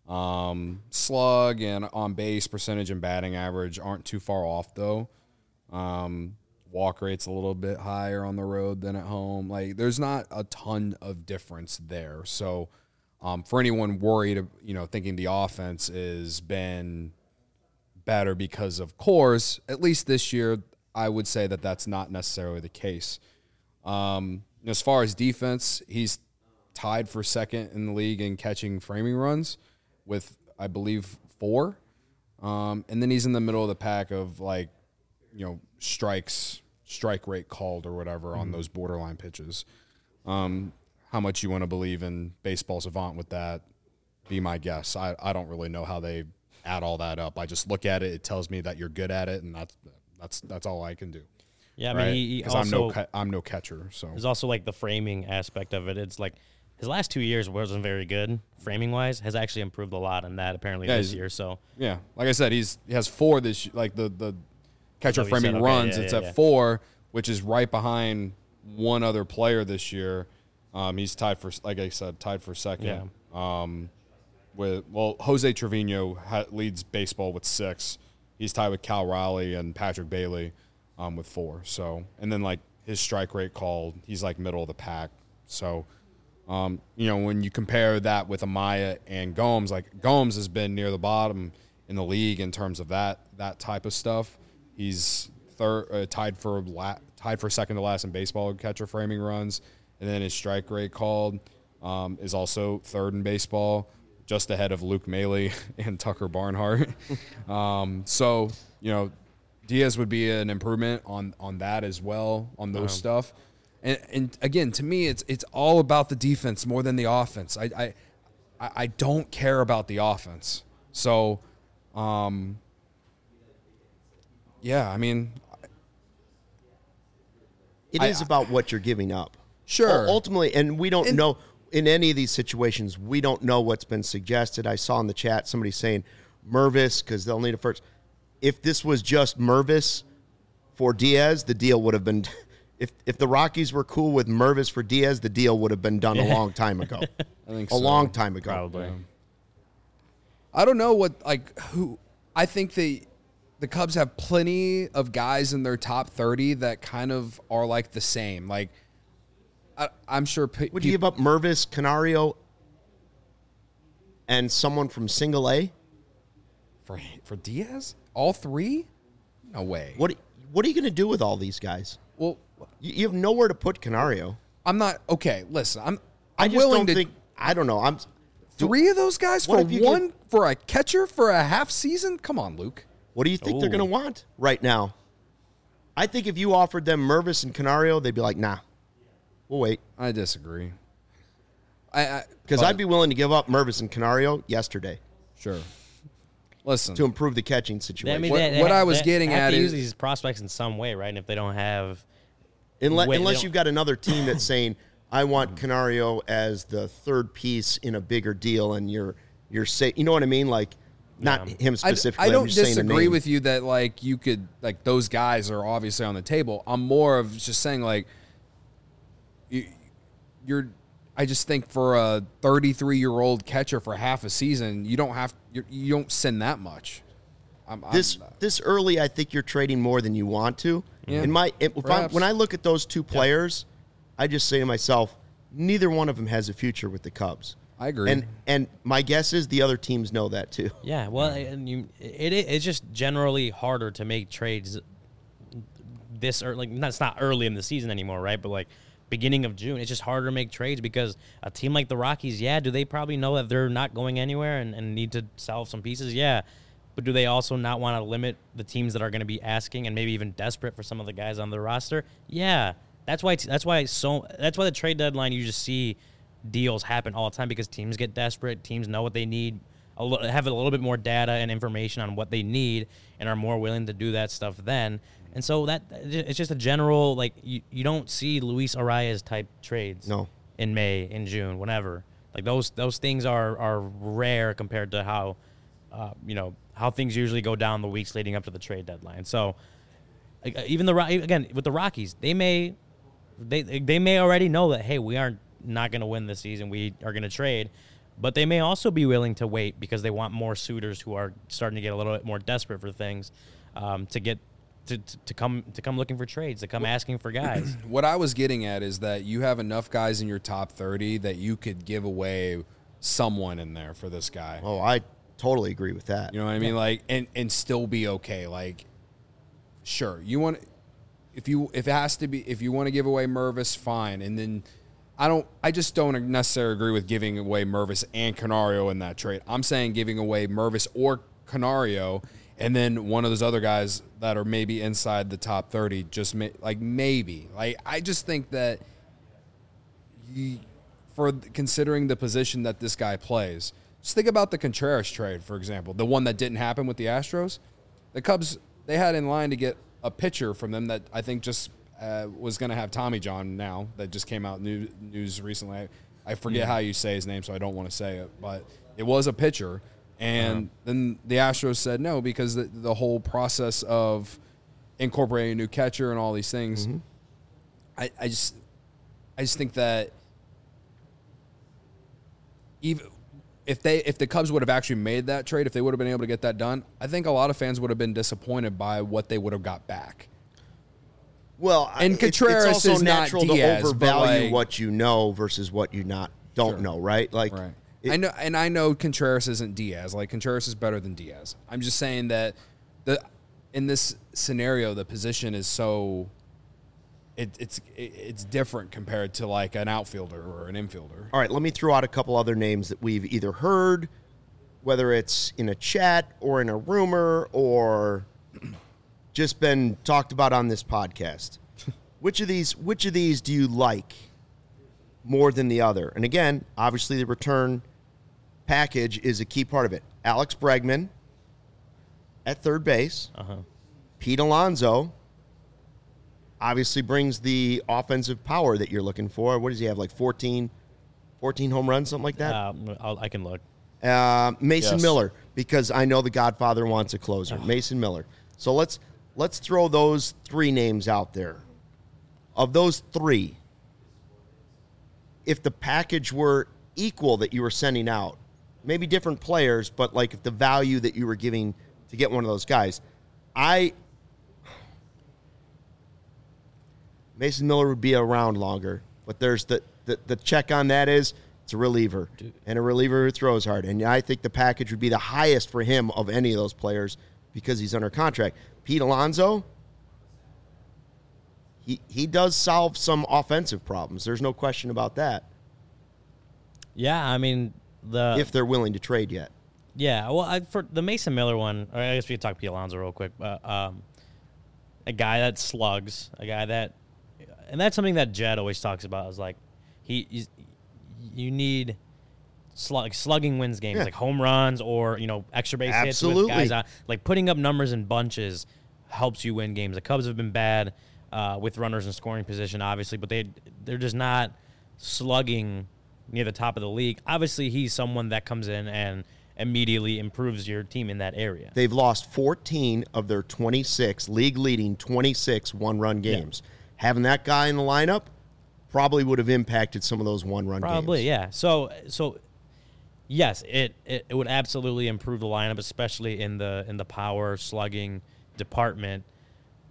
Slug and on base percentage and batting average aren't too far off though. Walk rate's a little bit higher on the road than at home. Like, there's not a ton of difference there. So, for anyone worried, thinking the offense has been better because of Coors, at least this year, I would say that that's not necessarily the case. As far as defense, he's tied for second in the league in catching framing runs with, I believe, 4. And then he's in the middle of the pack of, like, strike rate called or whatever on those borderline pitches. How much you want to believe in Baseball Savant with that, be my guess. I don't really know how they add all that up. I just look at it. It tells me that you're good at it, and that's all I can do. Yeah, I mean, because I'm no catcher. So there's also, like, the framing aspect of it. It's like his last 2 years wasn't very good framing wise. Has actually improved a lot on that apparently this year. So yeah, like I said, he has 4 this, like the catcher framing runs. It's at 4, which is right behind one other player this year. He's tied for, like I said, for second. Yeah. Jose Trevino leads baseball with 6. He's tied with Cal Raleigh and Patrick Bailey with 4. So, and then, like, his strike rate called, he's like middle of the pack. So, when you compare that with Amaya and Gomes, like, Gomes has been near the bottom in the league in terms of that type of stuff. He's tied for second to last in baseball catcher framing runs, and then his strike rate called is also 3rd in baseball, just ahead of Luke Maile and Tucker Barnhart. So, Diaz would be an improvement on that as well, on those stuff. And again, to me, it's all about the defense more than the offense. I don't care about the offense. So, yeah, I mean, it is about what you're giving up. Sure. Ultimately, and we don't know in any of these situations, we don't know what's been suggested. I saw in the chat somebody saying Mervis because they'll need a first. If this was just Mervis for Diaz, the deal would have been. If the Rockies were cool with Mervis for Diaz, the deal would have been done a long time ago. I think a long time ago. Probably. Yeah. I don't know who. I think the Cubs have plenty of guys in their top 30 that kind of are like the same. Like, I'm sure. Would you give up Mervis, Canario, and someone from Single A for Diaz? All 3? No way. What are you going to do with all these guys? Well, you have nowhere to put Canario. I'm not okay. Listen, I just don't think. I don't know. 3 of those guys for one for a catcher for a half season. Come on, Luke. What do you think they're going to want right now? I think if you offered them Mervis and Canario, they'd be like, nah, we'll wait. I disagree. Because I'd be willing to give up Mervis and Canario yesterday. Sure. Listen. To improve the catching situation. I mean, what I was getting at is use these prospects in some way, right? And if they don't have, unless you've got another team that's saying, I want Canario as the 3rd piece in a bigger deal, and you're saying, you know what I mean? Like, not him specifically. I don't disagree with you that, like, you could, like, those guys are obviously on the table. I'm more of just saying, like, I just think for a 33-year-old catcher for half a season, you don't send that much. This early, I think you're trading more than you want to. Yeah. When I look at those 2 players, I just say to myself, neither one of them has a future with the Cubs. I agree. And my guess is the other teams know that too. Yeah, well, and it's just generally harder to make trades this early. Like, it's not early in the season anymore, right? But like beginning of June, it's just harder to make trades because a team like the Rockies, do they probably know that they're not going anywhere and need to sell some pieces? Yeah. But do they also not want to limit the teams that are going to be asking and maybe even desperate for some of the guys on their roster? Yeah. That's why the trade deadline you just see deals happen all the time, because teams get desperate, teams know what they need, have a little bit more data and information on what they need, and are more willing to do that stuff then. And so that it's just a general, like, you don't see Luis Arias type trades in May, in June, whenever. Like those things are rare compared to how how things usually go down the weeks leading up to the trade deadline. So even again with the Rockies, they may already know that, hey, we aren't not going to win this season, we are going to trade, but they may also be willing to wait because they want more suitors who are starting to get a little bit more desperate for things, to come looking for trades, to come asking for guys. What I was getting at is that you have enough guys in your top 30 that you could give away someone in there for this guy. Oh, I totally agree with that. You know what I mean? Like, and still be okay. Like, sure, you want, if you want to give away Mervis, fine. And then I just don't necessarily agree with giving away Mervis and Canario in that trade. I'm saying giving away Mervis or Canario, and then one of those other guys that are maybe inside the top 30, maybe. Like, I just think that for considering the position that this guy plays, just think about the Contreras trade, for example, the one that didn't happen with the Astros. The Cubs, they had in line to get a pitcher from them that I think just was going to have Tommy John now, that just came out news recently. I forget how you say his name, so I don't want to say it, but it was a pitcher. And then the Astros said no because the whole process of incorporating a new catcher and all these things. Mm-hmm. I just think that even if the Cubs would have actually made that trade, if they would have been able to get that done, I think a lot of fans would have been disappointed by what they would have got back. Well, and Contreras it's also is natural not Diaz, to overvalue what you know versus what you don't know, right? Like, right. I know Contreras isn't Diaz. Like, Contreras is better than Diaz. I'm just saying that in this scenario, the position is so it's different compared to like an outfielder or an infielder. All right, let me throw out a couple other names that we've either heard, whether it's in a chat or in a rumor or just been talked about on this podcast. Which of these do you like more than the other? And again, obviously the return package is a key part of it. Alex Bregman at third base. Pete Alonso obviously brings the offensive power that you're looking for. What does he have, like 14 home runs, something like that? I can look. Mason Miller, because I know the Godfather wants a closer. Mason Miller. So let's throw those three names out there. Of those three, if the package were equal that you were sending out, maybe different players, but like if the value that you were giving to get one of those guys, Mason Miller would be around longer, but there's the check on that is it's a reliever, and a reliever who throws hard. And I think the package would be the highest for him of any of those players because he's under contract. Pete Alonso, he does solve some offensive problems. There's no question about that. Yeah, I mean, if they're willing to trade yet. Yeah, well, for the Mason Miller one, I guess we could talk Pete Alonso real quick. A guy that slugs, a guy that, and that's something that Jed always talks about. Is like you need slugging wins games, like home runs or extra base hits with guys out. Like putting up numbers in bunches helps you win games. The Cubs have been bad with runners in scoring position, obviously, but they're just not slugging near the top of the league. Obviously, he's someone that comes in and immediately improves your team in that area. They've lost 14 of their 26, league-leading 26 one-run games. Yeah. Having that guy in the lineup probably would have impacted some of those one-run games. Probably, yeah. So yes, it would absolutely improve the lineup, especially in the power slugging department.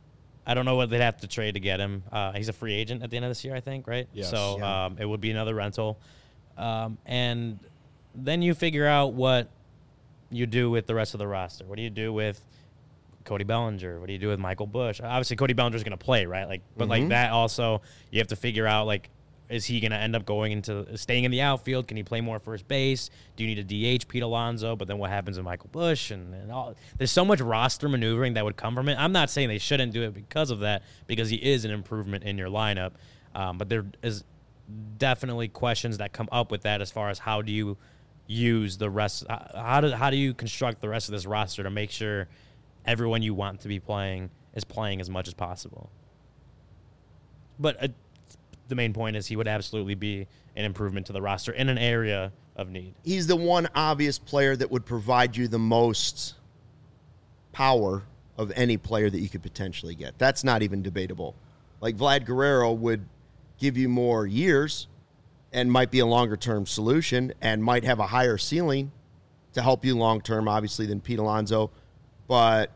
I don't know what they'd have to trade to get him. He's a free agent at the end of this year, I think, right? Yes. So it would be another rental. And then you figure out what you do with the rest of the roster. What do you do with Cody Bellinger? What do you do with Michael Busch? Obviously, Cody Bellinger's going to play, right? Like, but like that also, you have to figure out, like, is he going to end up staying in the outfield? Can he play more first base? Do you need a DH Pete Alonso? But then what happens with Michael Busch? And all? There's so much roster maneuvering that would come from it. I'm not saying they shouldn't do it because of that, because he is an improvement in your lineup. But there is definitely questions that come up with that as far as how do you use the rest? How do you construct the rest of this roster to make sure everyone you want to be playing is playing as much as possible? But the main point is he would absolutely be an improvement to the roster in an area of need. He's the one obvious player that would provide you the most power of any player that you could potentially get. That's not even debatable. Like Vlad Guerrero would give you more years and might be a longer-term solution and might have a higher ceiling to help you long-term, obviously, than Pete Alonso. But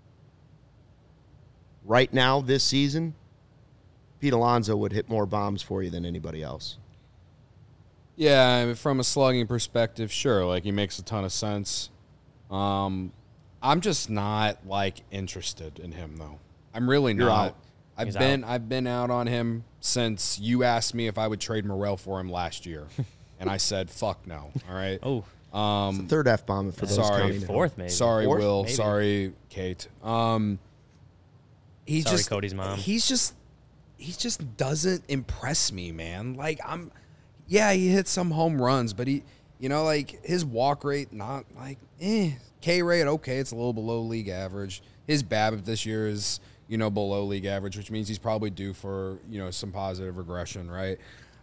right now, this season, Pete Alonso would hit more bombs for you than anybody else. Yeah, I mean, from a slugging perspective, sure. Like, he makes a ton of sense. I'm just not, like, interested in him, though. I'm really not. I've been out on him since you asked me if I would trade Morel for him last year. And I said, fuck no. All right? It's the third F-bomb for those counting. Fourth, maybe. Sorry, Fourth, Will. maybe. Sorry, Kate. Sorry, Cody's mom. He just doesn't impress me, man. Like, he hits some home runs, but he, like, his walk rate, not like, K rate, okay, it's a little below league average. His BABIP this year is, below league average, which means he's probably due for, some positive regression, right?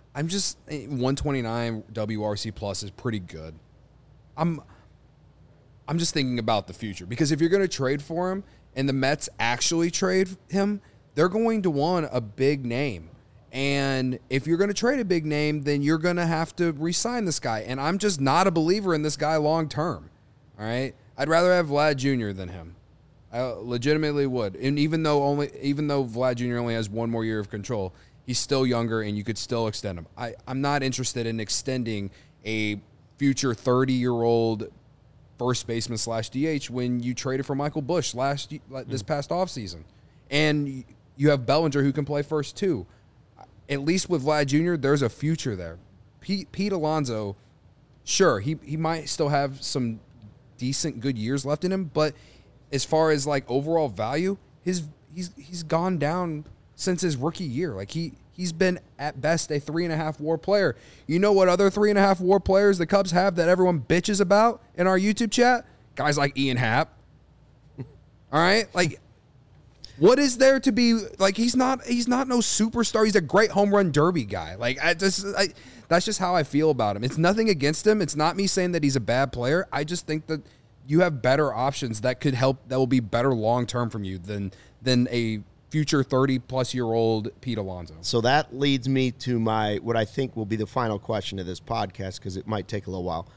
129 WRC plus is pretty good. I'm just thinking about the future, because if you're going to trade for him and the Mets actually trade him, they're going to want a big name. And if you're going to trade a big name, then you're going to have to re-sign this guy. And I'm just not a believer in this guy long term. All right? I'd rather have Vlad Jr. than him. I legitimately would. And even though Vlad Jr. only has one more year of control, he's still younger and you could still extend him. I'm not interested in extending a future 30-year-old first baseman / DH when you traded for Michael Busch this past offseason. And you have Bellinger who can play first too. At least with Vlad Jr., there's a future there. Pete Alonso, sure, he might still have some decent good years left in him, but as far as like overall value, he's gone down since his rookie year. Like he's been at best a 3.5 WAR player. You know what other 3.5 WAR players the Cubs have that everyone bitches about in our YouTube chat? Guys like Ian Happ. All right, like. What is there to be like? He's not no superstar. He's a great home run derby guy. Like that's just how I feel about him. It's nothing against him. It's not me saying that he's a bad player. I just think that you have better options that could help. That will be better long term from you than a future 30-plus-year-old Pete Alonso. So that leads me to what I think will be the final question of this podcast, because it might take a little while.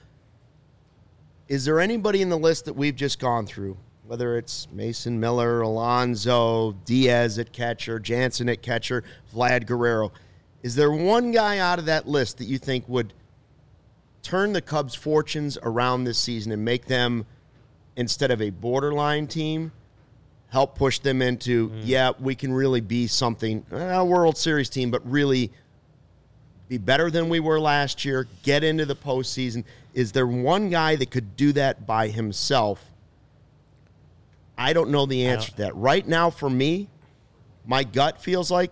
Is there anybody in the list that we've just gone through, whether it's Mason Miller, Alonso, Diaz at catcher, Jansen at catcher, Vlad Guerrero, is there one guy out of that list that you think would turn the Cubs' fortunes around this season and make them, instead of a borderline team, help push them into, we can really be something, a World Series team, but really be better than we were last year, get into the postseason? Is there one guy that could do that by himself? I don't know the answer to that. Right now, for me, my gut feels like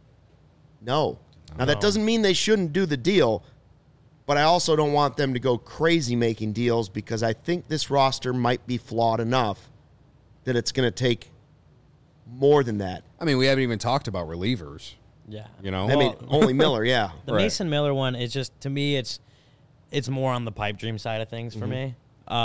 no. Now, that doesn't mean they shouldn't do the deal, but I also don't want them to go crazy making deals, because I think this roster might be flawed enough that it's going to take more than that. I mean, we haven't even talked about relievers. Yeah. Only Miller, yeah. The Mason Miller one is just, to me, it's more on the pipe dream side of things for me.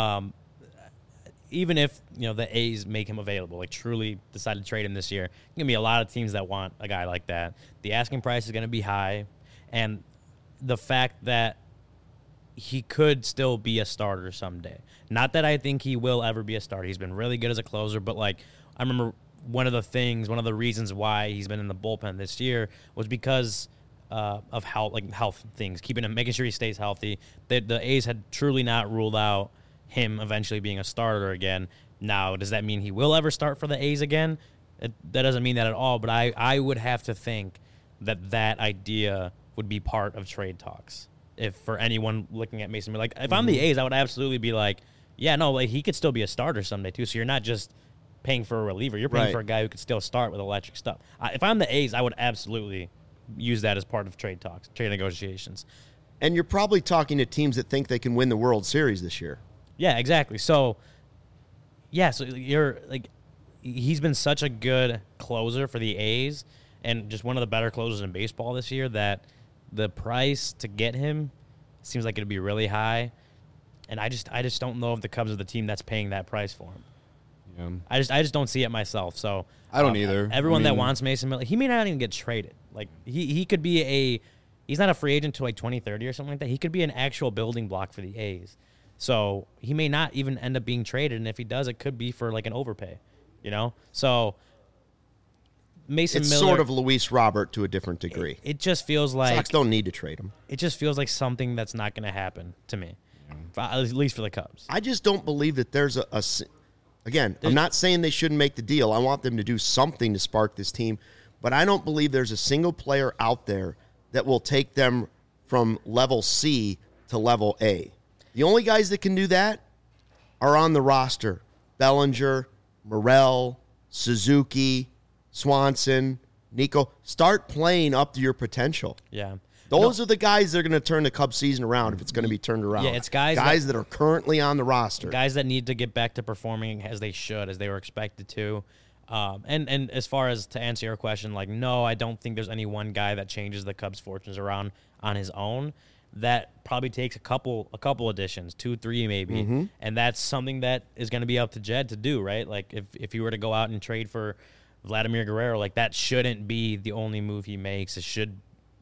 Even if, the A's make him available, like truly decide to trade him this year, there's going to be a lot of teams that want a guy like that. The asking price is going to be high, and the fact that he could still be a starter someday. Not that I think he will ever be a starter. He's been really good as a closer, but, like, I remember one of the reasons why he's been in the bullpen this year was because of health things, making sure he stays healthy. The A's had truly not ruled out him eventually being a starter again. Now, does that mean he will ever start for the A's again? That doesn't mean that at all, but I would have to think that idea would be part of trade talks. If for anyone looking at Mason Miller, like if I'm the A's, I would absolutely be like, yeah, no, like he could still be a starter someday too. So you're not just paying for a reliever. You're paying for a guy who could still start with electric stuff. If I'm the A's, I would absolutely use that as part of trade talks, trade negotiations. And you're probably talking to teams that think they can win the World Series this year. Yeah, exactly. So, yeah, so you're like, he's been such a good closer for the A's and just one of the better closers in baseball this year that the price to get him seems like it'd be really high. And I just don't know if the Cubs are the team that's paying that price for him. I just don't see it myself. So I don't either. Everyone that wants Mason Miller, he may not even get traded. Like he could be he's not a free agent until like 2030 or something like that. He could be an actual building block for the A's. So he may not even end up being traded, and if he does, it could be for like an overpay. So Mason Miller, sort of Luis Robert to a different degree. It just feels like Sox don't need to trade him. It just feels like something that's not going to happen to me, at least for the Cubs. I just don't believe that there's Again, I'm not saying they shouldn't make the deal. I want them to do something to spark this team. But I don't believe there's a single player out there that will take them from level C to level A. The only guys that can do that are on the roster. Bellinger, Morel, Suzuki, Swanson, Nico. Start playing up to your potential. Yeah. Those are the guys that are going to turn the Cubs season around if it's going to be turned around. Yeah, it's guys that are currently on the roster. Guys that need to get back to performing as they should, as they were expected to. And as far as to answer your question, like, no, I don't think there's any one guy that changes the Cubs' fortunes around on his own. That probably takes a couple additions, 2, 3 maybe. And that's something that is going to be up to Jed to do, right? Like if you were to go out and trade for Vladimir Guerrero, like that shouldn't be the only move he makes. It should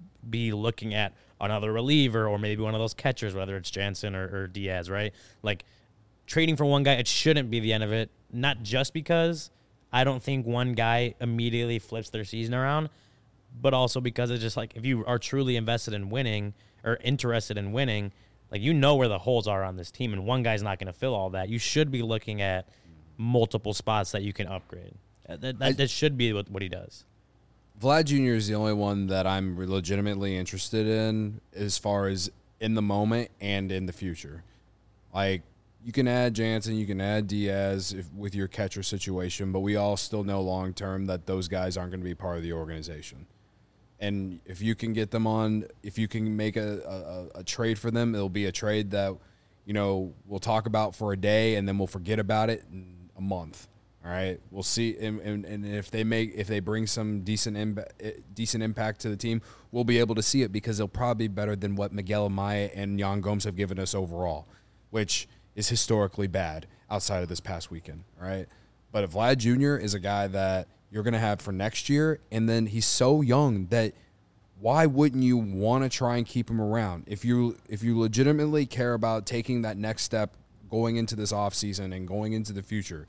be looking at another reliever or maybe one of those catchers, whether it's Jansen or Diaz, right? Like trading for one guy, it shouldn't be the end of it. Not just because I don't think one guy immediately flips their season around, but also because it's just like if you are truly invested in winning or interested in winning, like where the holes are on this team, and one guy's not going to fill all that. You should be looking at multiple spots that you can upgrade. That should be what he does. Vlad Jr. is the only one that I'm legitimately interested in as far as in the moment and in the future. Like, you can add Jansen, you can add Diaz with your catcher situation, but we all still know long-term that those guys aren't going to be part of the organization. And if you can get them on, if you can make a trade for them, it'll be a trade that, we'll talk about for a day and then we'll forget about it in a month. All right, we'll see, and if they bring some decent impact to the team, we'll be able to see it because they'll probably be better than what Miguel Amaya and Yan Gomes have given us overall, which is historically bad outside of this past weekend. All right, but if Vlad Jr. is a guy that you're going to have for next year, and then he's so young that why wouldn't you want to try and keep him around? If you legitimately care about taking that next step going into this offseason and going into the future.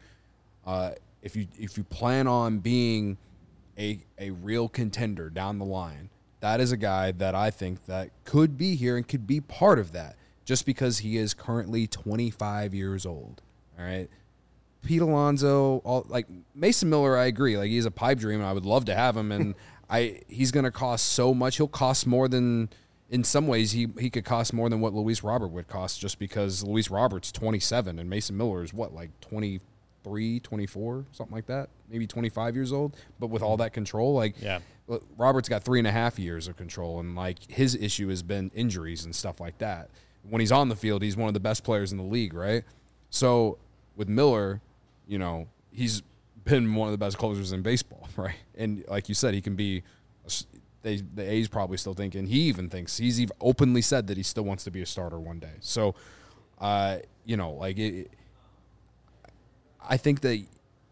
If you plan on being a real contender down the line, that is a guy that I think that could be here and could be part of that just because he is currently 25 years old. All right. Pete Alonso, Mason Miller, I agree. Like, he's a pipe dream and I would love to have him. And he's going to cost so much. He'll cost more than, in some ways, he could cost more than what Luis Robert would cost just because Luis Robert's 27 and Mason Miller is 23, 24, something like that, maybe 25 years old, but with all that control, Robert's got 3.5 years of control, and his issue has been injuries and stuff like that. When he's on the field, he's one of the best players in the league, right? So with Miller, he's been one of the best closers in baseball, right? And like you said, he can be. The A's probably still thinking he's even openly said that he still wants to be a starter one day. So, I think that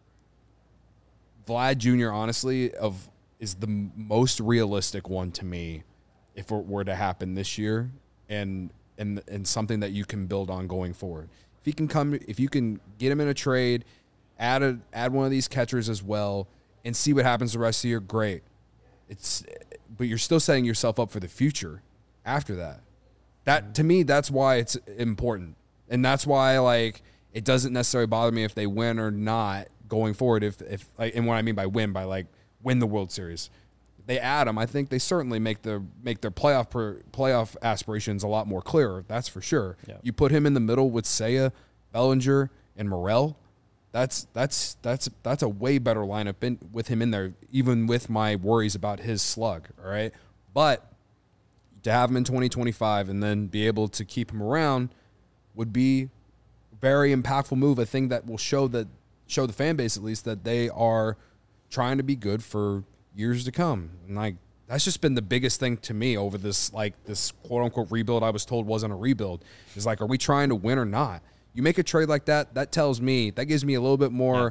Vlad Jr. honestly is the most realistic one to me if it were to happen this year and something that you can build on going forward. If you can get him in a trade add one of these catchers as well, and see what happens the rest of the year. Great. But you're still setting yourself up for the future after that. That to me, that's why it's important, and that's why like it doesn't necessarily bother me if they win or not going forward. If like, and what I mean by win the World Series. If they add them, I think they certainly make their playoff aspirations a lot more clearer. That's for sure. Yeah. You put him in the middle with Seiya, Bellinger, and Morel. That's a way better lineup with him in there, even with my worries about his slug. All right, but to have him in 2025 and then be able to keep him around would be a very impactful move. A thing that will show the fan base at least that they are trying to be good for years to come. And like that's just been the biggest thing to me over this quote unquote rebuild I was told wasn't a rebuild. Is like, are we trying to win or not? You make a trade like that, that tells me, that gives me a little bit more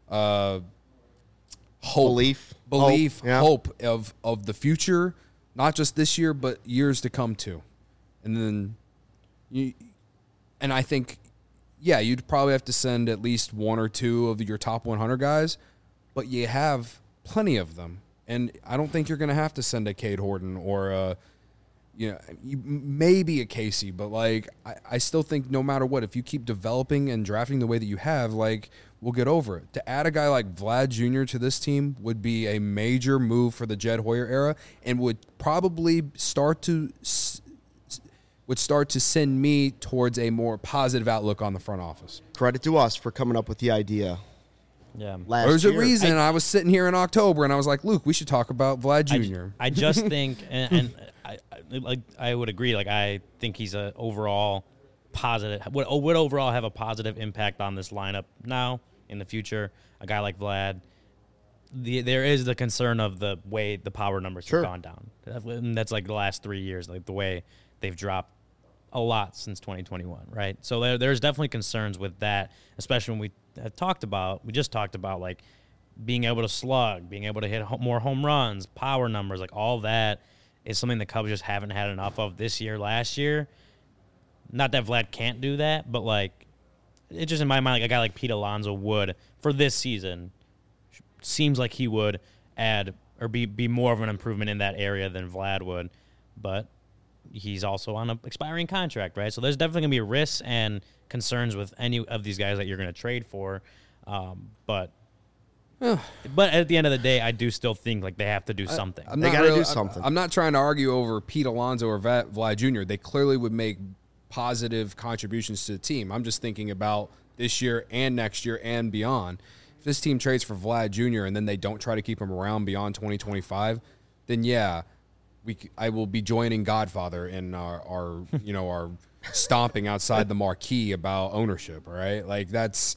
belief, hope of the future, not just this year, but years to come too. And then I think, yeah, you'd probably have to send at least one or two of your top 100 guys, but you have plenty of them. And I don't think you're going to have to send a Cade Horton or maybe a Casey, but like I still think no matter what, if you keep developing and drafting the way that you have, like we'll get over it. To add a guy like Vlad Jr. to this team would be a major move for the Jed Hoyer era, and would probably start to send me towards a more positive outlook on the front office. Credit to us for coming up with the idea. Yeah, there's a reason I was sitting here in October and I was like, Luke, we should talk about Vlad Jr. I just think, and I would agree. Like I think he's a overall positive. Would overall have a positive impact on this lineup now in the future. A guy like Vlad. There is the concern of the way the power numbers have gone down. And that's like the last 3 years, like the way they've dropped a lot since 2021, right? So there's definitely concerns with that, especially when we just talked about like being able to slug, being able to hit more home runs, power numbers, like all that is something the Cubs just haven't had enough of this year, last year. Not that Vlad can't do that, but like it just in my mind, like a guy like Pete Alonso would for this season. Seems like he would add or be more of an improvement in that area than Vlad would, but he's also on an expiring contract, right? So there's definitely going to be risks and concerns with any of these guys that you're going to trade for. But at the end of the day, I do still think like they have to do something. They got to do something. I'm not trying to argue over Pete Alonso or Vlad Jr. They clearly would make positive contributions to the team. I'm just thinking about this year and next year and beyond. If this team trades for Vlad Jr. and then they don't try to keep him around beyond 2025, then yeah, I will be joining Godfather in our stomping outside the marquee about ownership. All right, like that's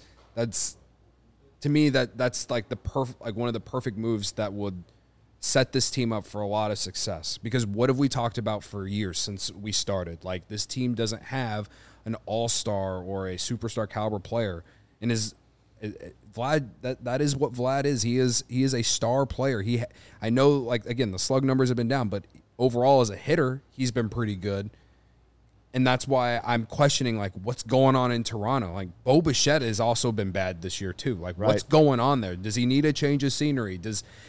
to me that's like one of the perfect moves that would set this team up for a lot of success. Because what have we talked about for years since we started? Like this team doesn't have an all-star or a superstar caliber player, and Vlad, that is what Vlad is. He is a star player. I know, like, again, the slug numbers have been down, but overall as a hitter, he's been pretty good. And that's why I'm questioning, like, what's going on in Toronto. Like, Bo Bichette has also been bad this year too. Like, what's going on there? Does he need a change of scenery?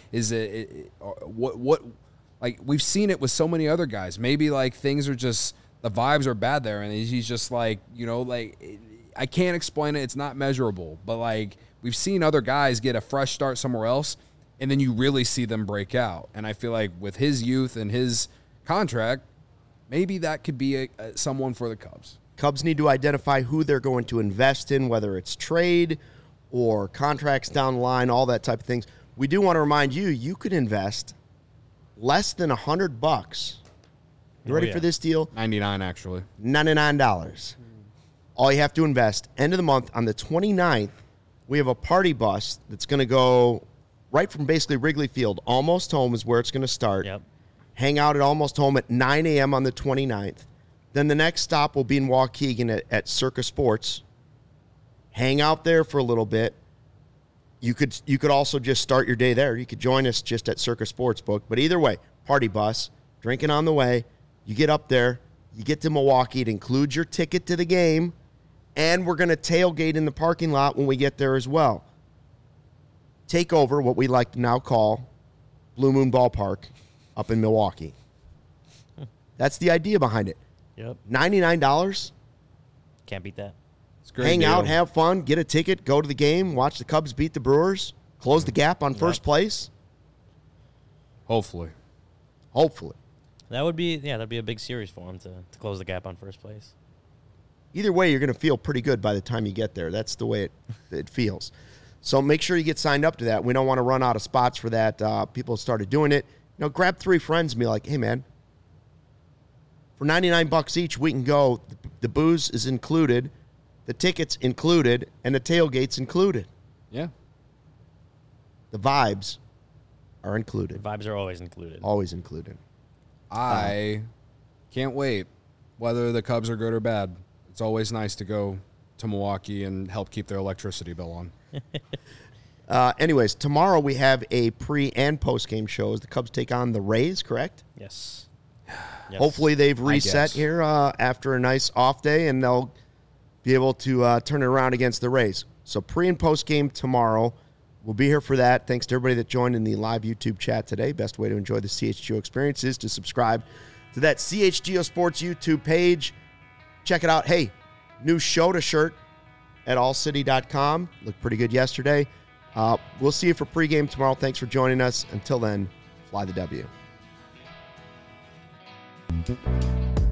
Like, we've seen it with so many other guys. Maybe like things are just, the vibes are bad there, and he's just like, I can't explain it. It's not measurable, but like we've seen other guys get a fresh start somewhere else, and then you really see them break out. And I feel like with his youth and his contract, maybe that could be someone for the Cubs. Cubs need to identify who they're going to invest in, whether it's trade or contracts down the line, all that type of things. We do want to remind you could invest less than $100. You ready for this deal? $99, actually. $99. All you have to invest. End of the month, on the 29th, we have a party bus that's going to go right from basically Wrigley Field. Almost Home is where it's going to start. Yep. Hang out at Almost Home at 9 a.m. on the 29th. Then the next stop will be in Waukegan at Circa Sports. Hang out there for a little bit. You could also just start your day there. You could join us just at Circa Sportsbook. But either way, party bus, drinking on the way. You get up there. You get to Milwaukee. It includes your ticket to the game. And we're going to tailgate in the parking lot when we get there as well. take over what we like to now call Blue Moon Ballpark up in Milwaukee. That's the idea behind it. Yep. $99. Can't beat that. It's a great Hang deal. out, have fun, get a ticket, go to the game, watch the Cubs beat the Brewers, close the gap on first place. Hopefully. That would be that'd be a big series for him to close the gap on first place. Either way, you're going to feel pretty good by the time you get there. That's the way it feels. So make sure you get signed up to that. We don't want to run out of spots for that. People started doing it. Grab 3 friends and be like, hey, man, for $99 each, we can go. The booze is included, the tickets included, and the tailgate's included. Yeah. The vibes are included. The vibes are always included. Always included. I can't wait, whether the Cubs are good or bad. It's always nice to go to Milwaukee and help keep their electricity bill on. Anyways, tomorrow we have a pre- and post-game shows. The Cubs take on the Rays, correct? Yes. Hopefully they've reset here after a nice off day, and they'll be able to turn it around against the Rays. So pre- and post-game tomorrow. We'll be here for that. Thanks to everybody that joined in the live YouTube chat today. Best way to enjoy the CHGO experience is to subscribe to that CHGO Sports YouTube page. Check it out. Hey, new Shota shirt at allcity.com. Looked pretty good yesterday. We'll see you for pregame tomorrow. Thanks for joining us. Until then, fly the W.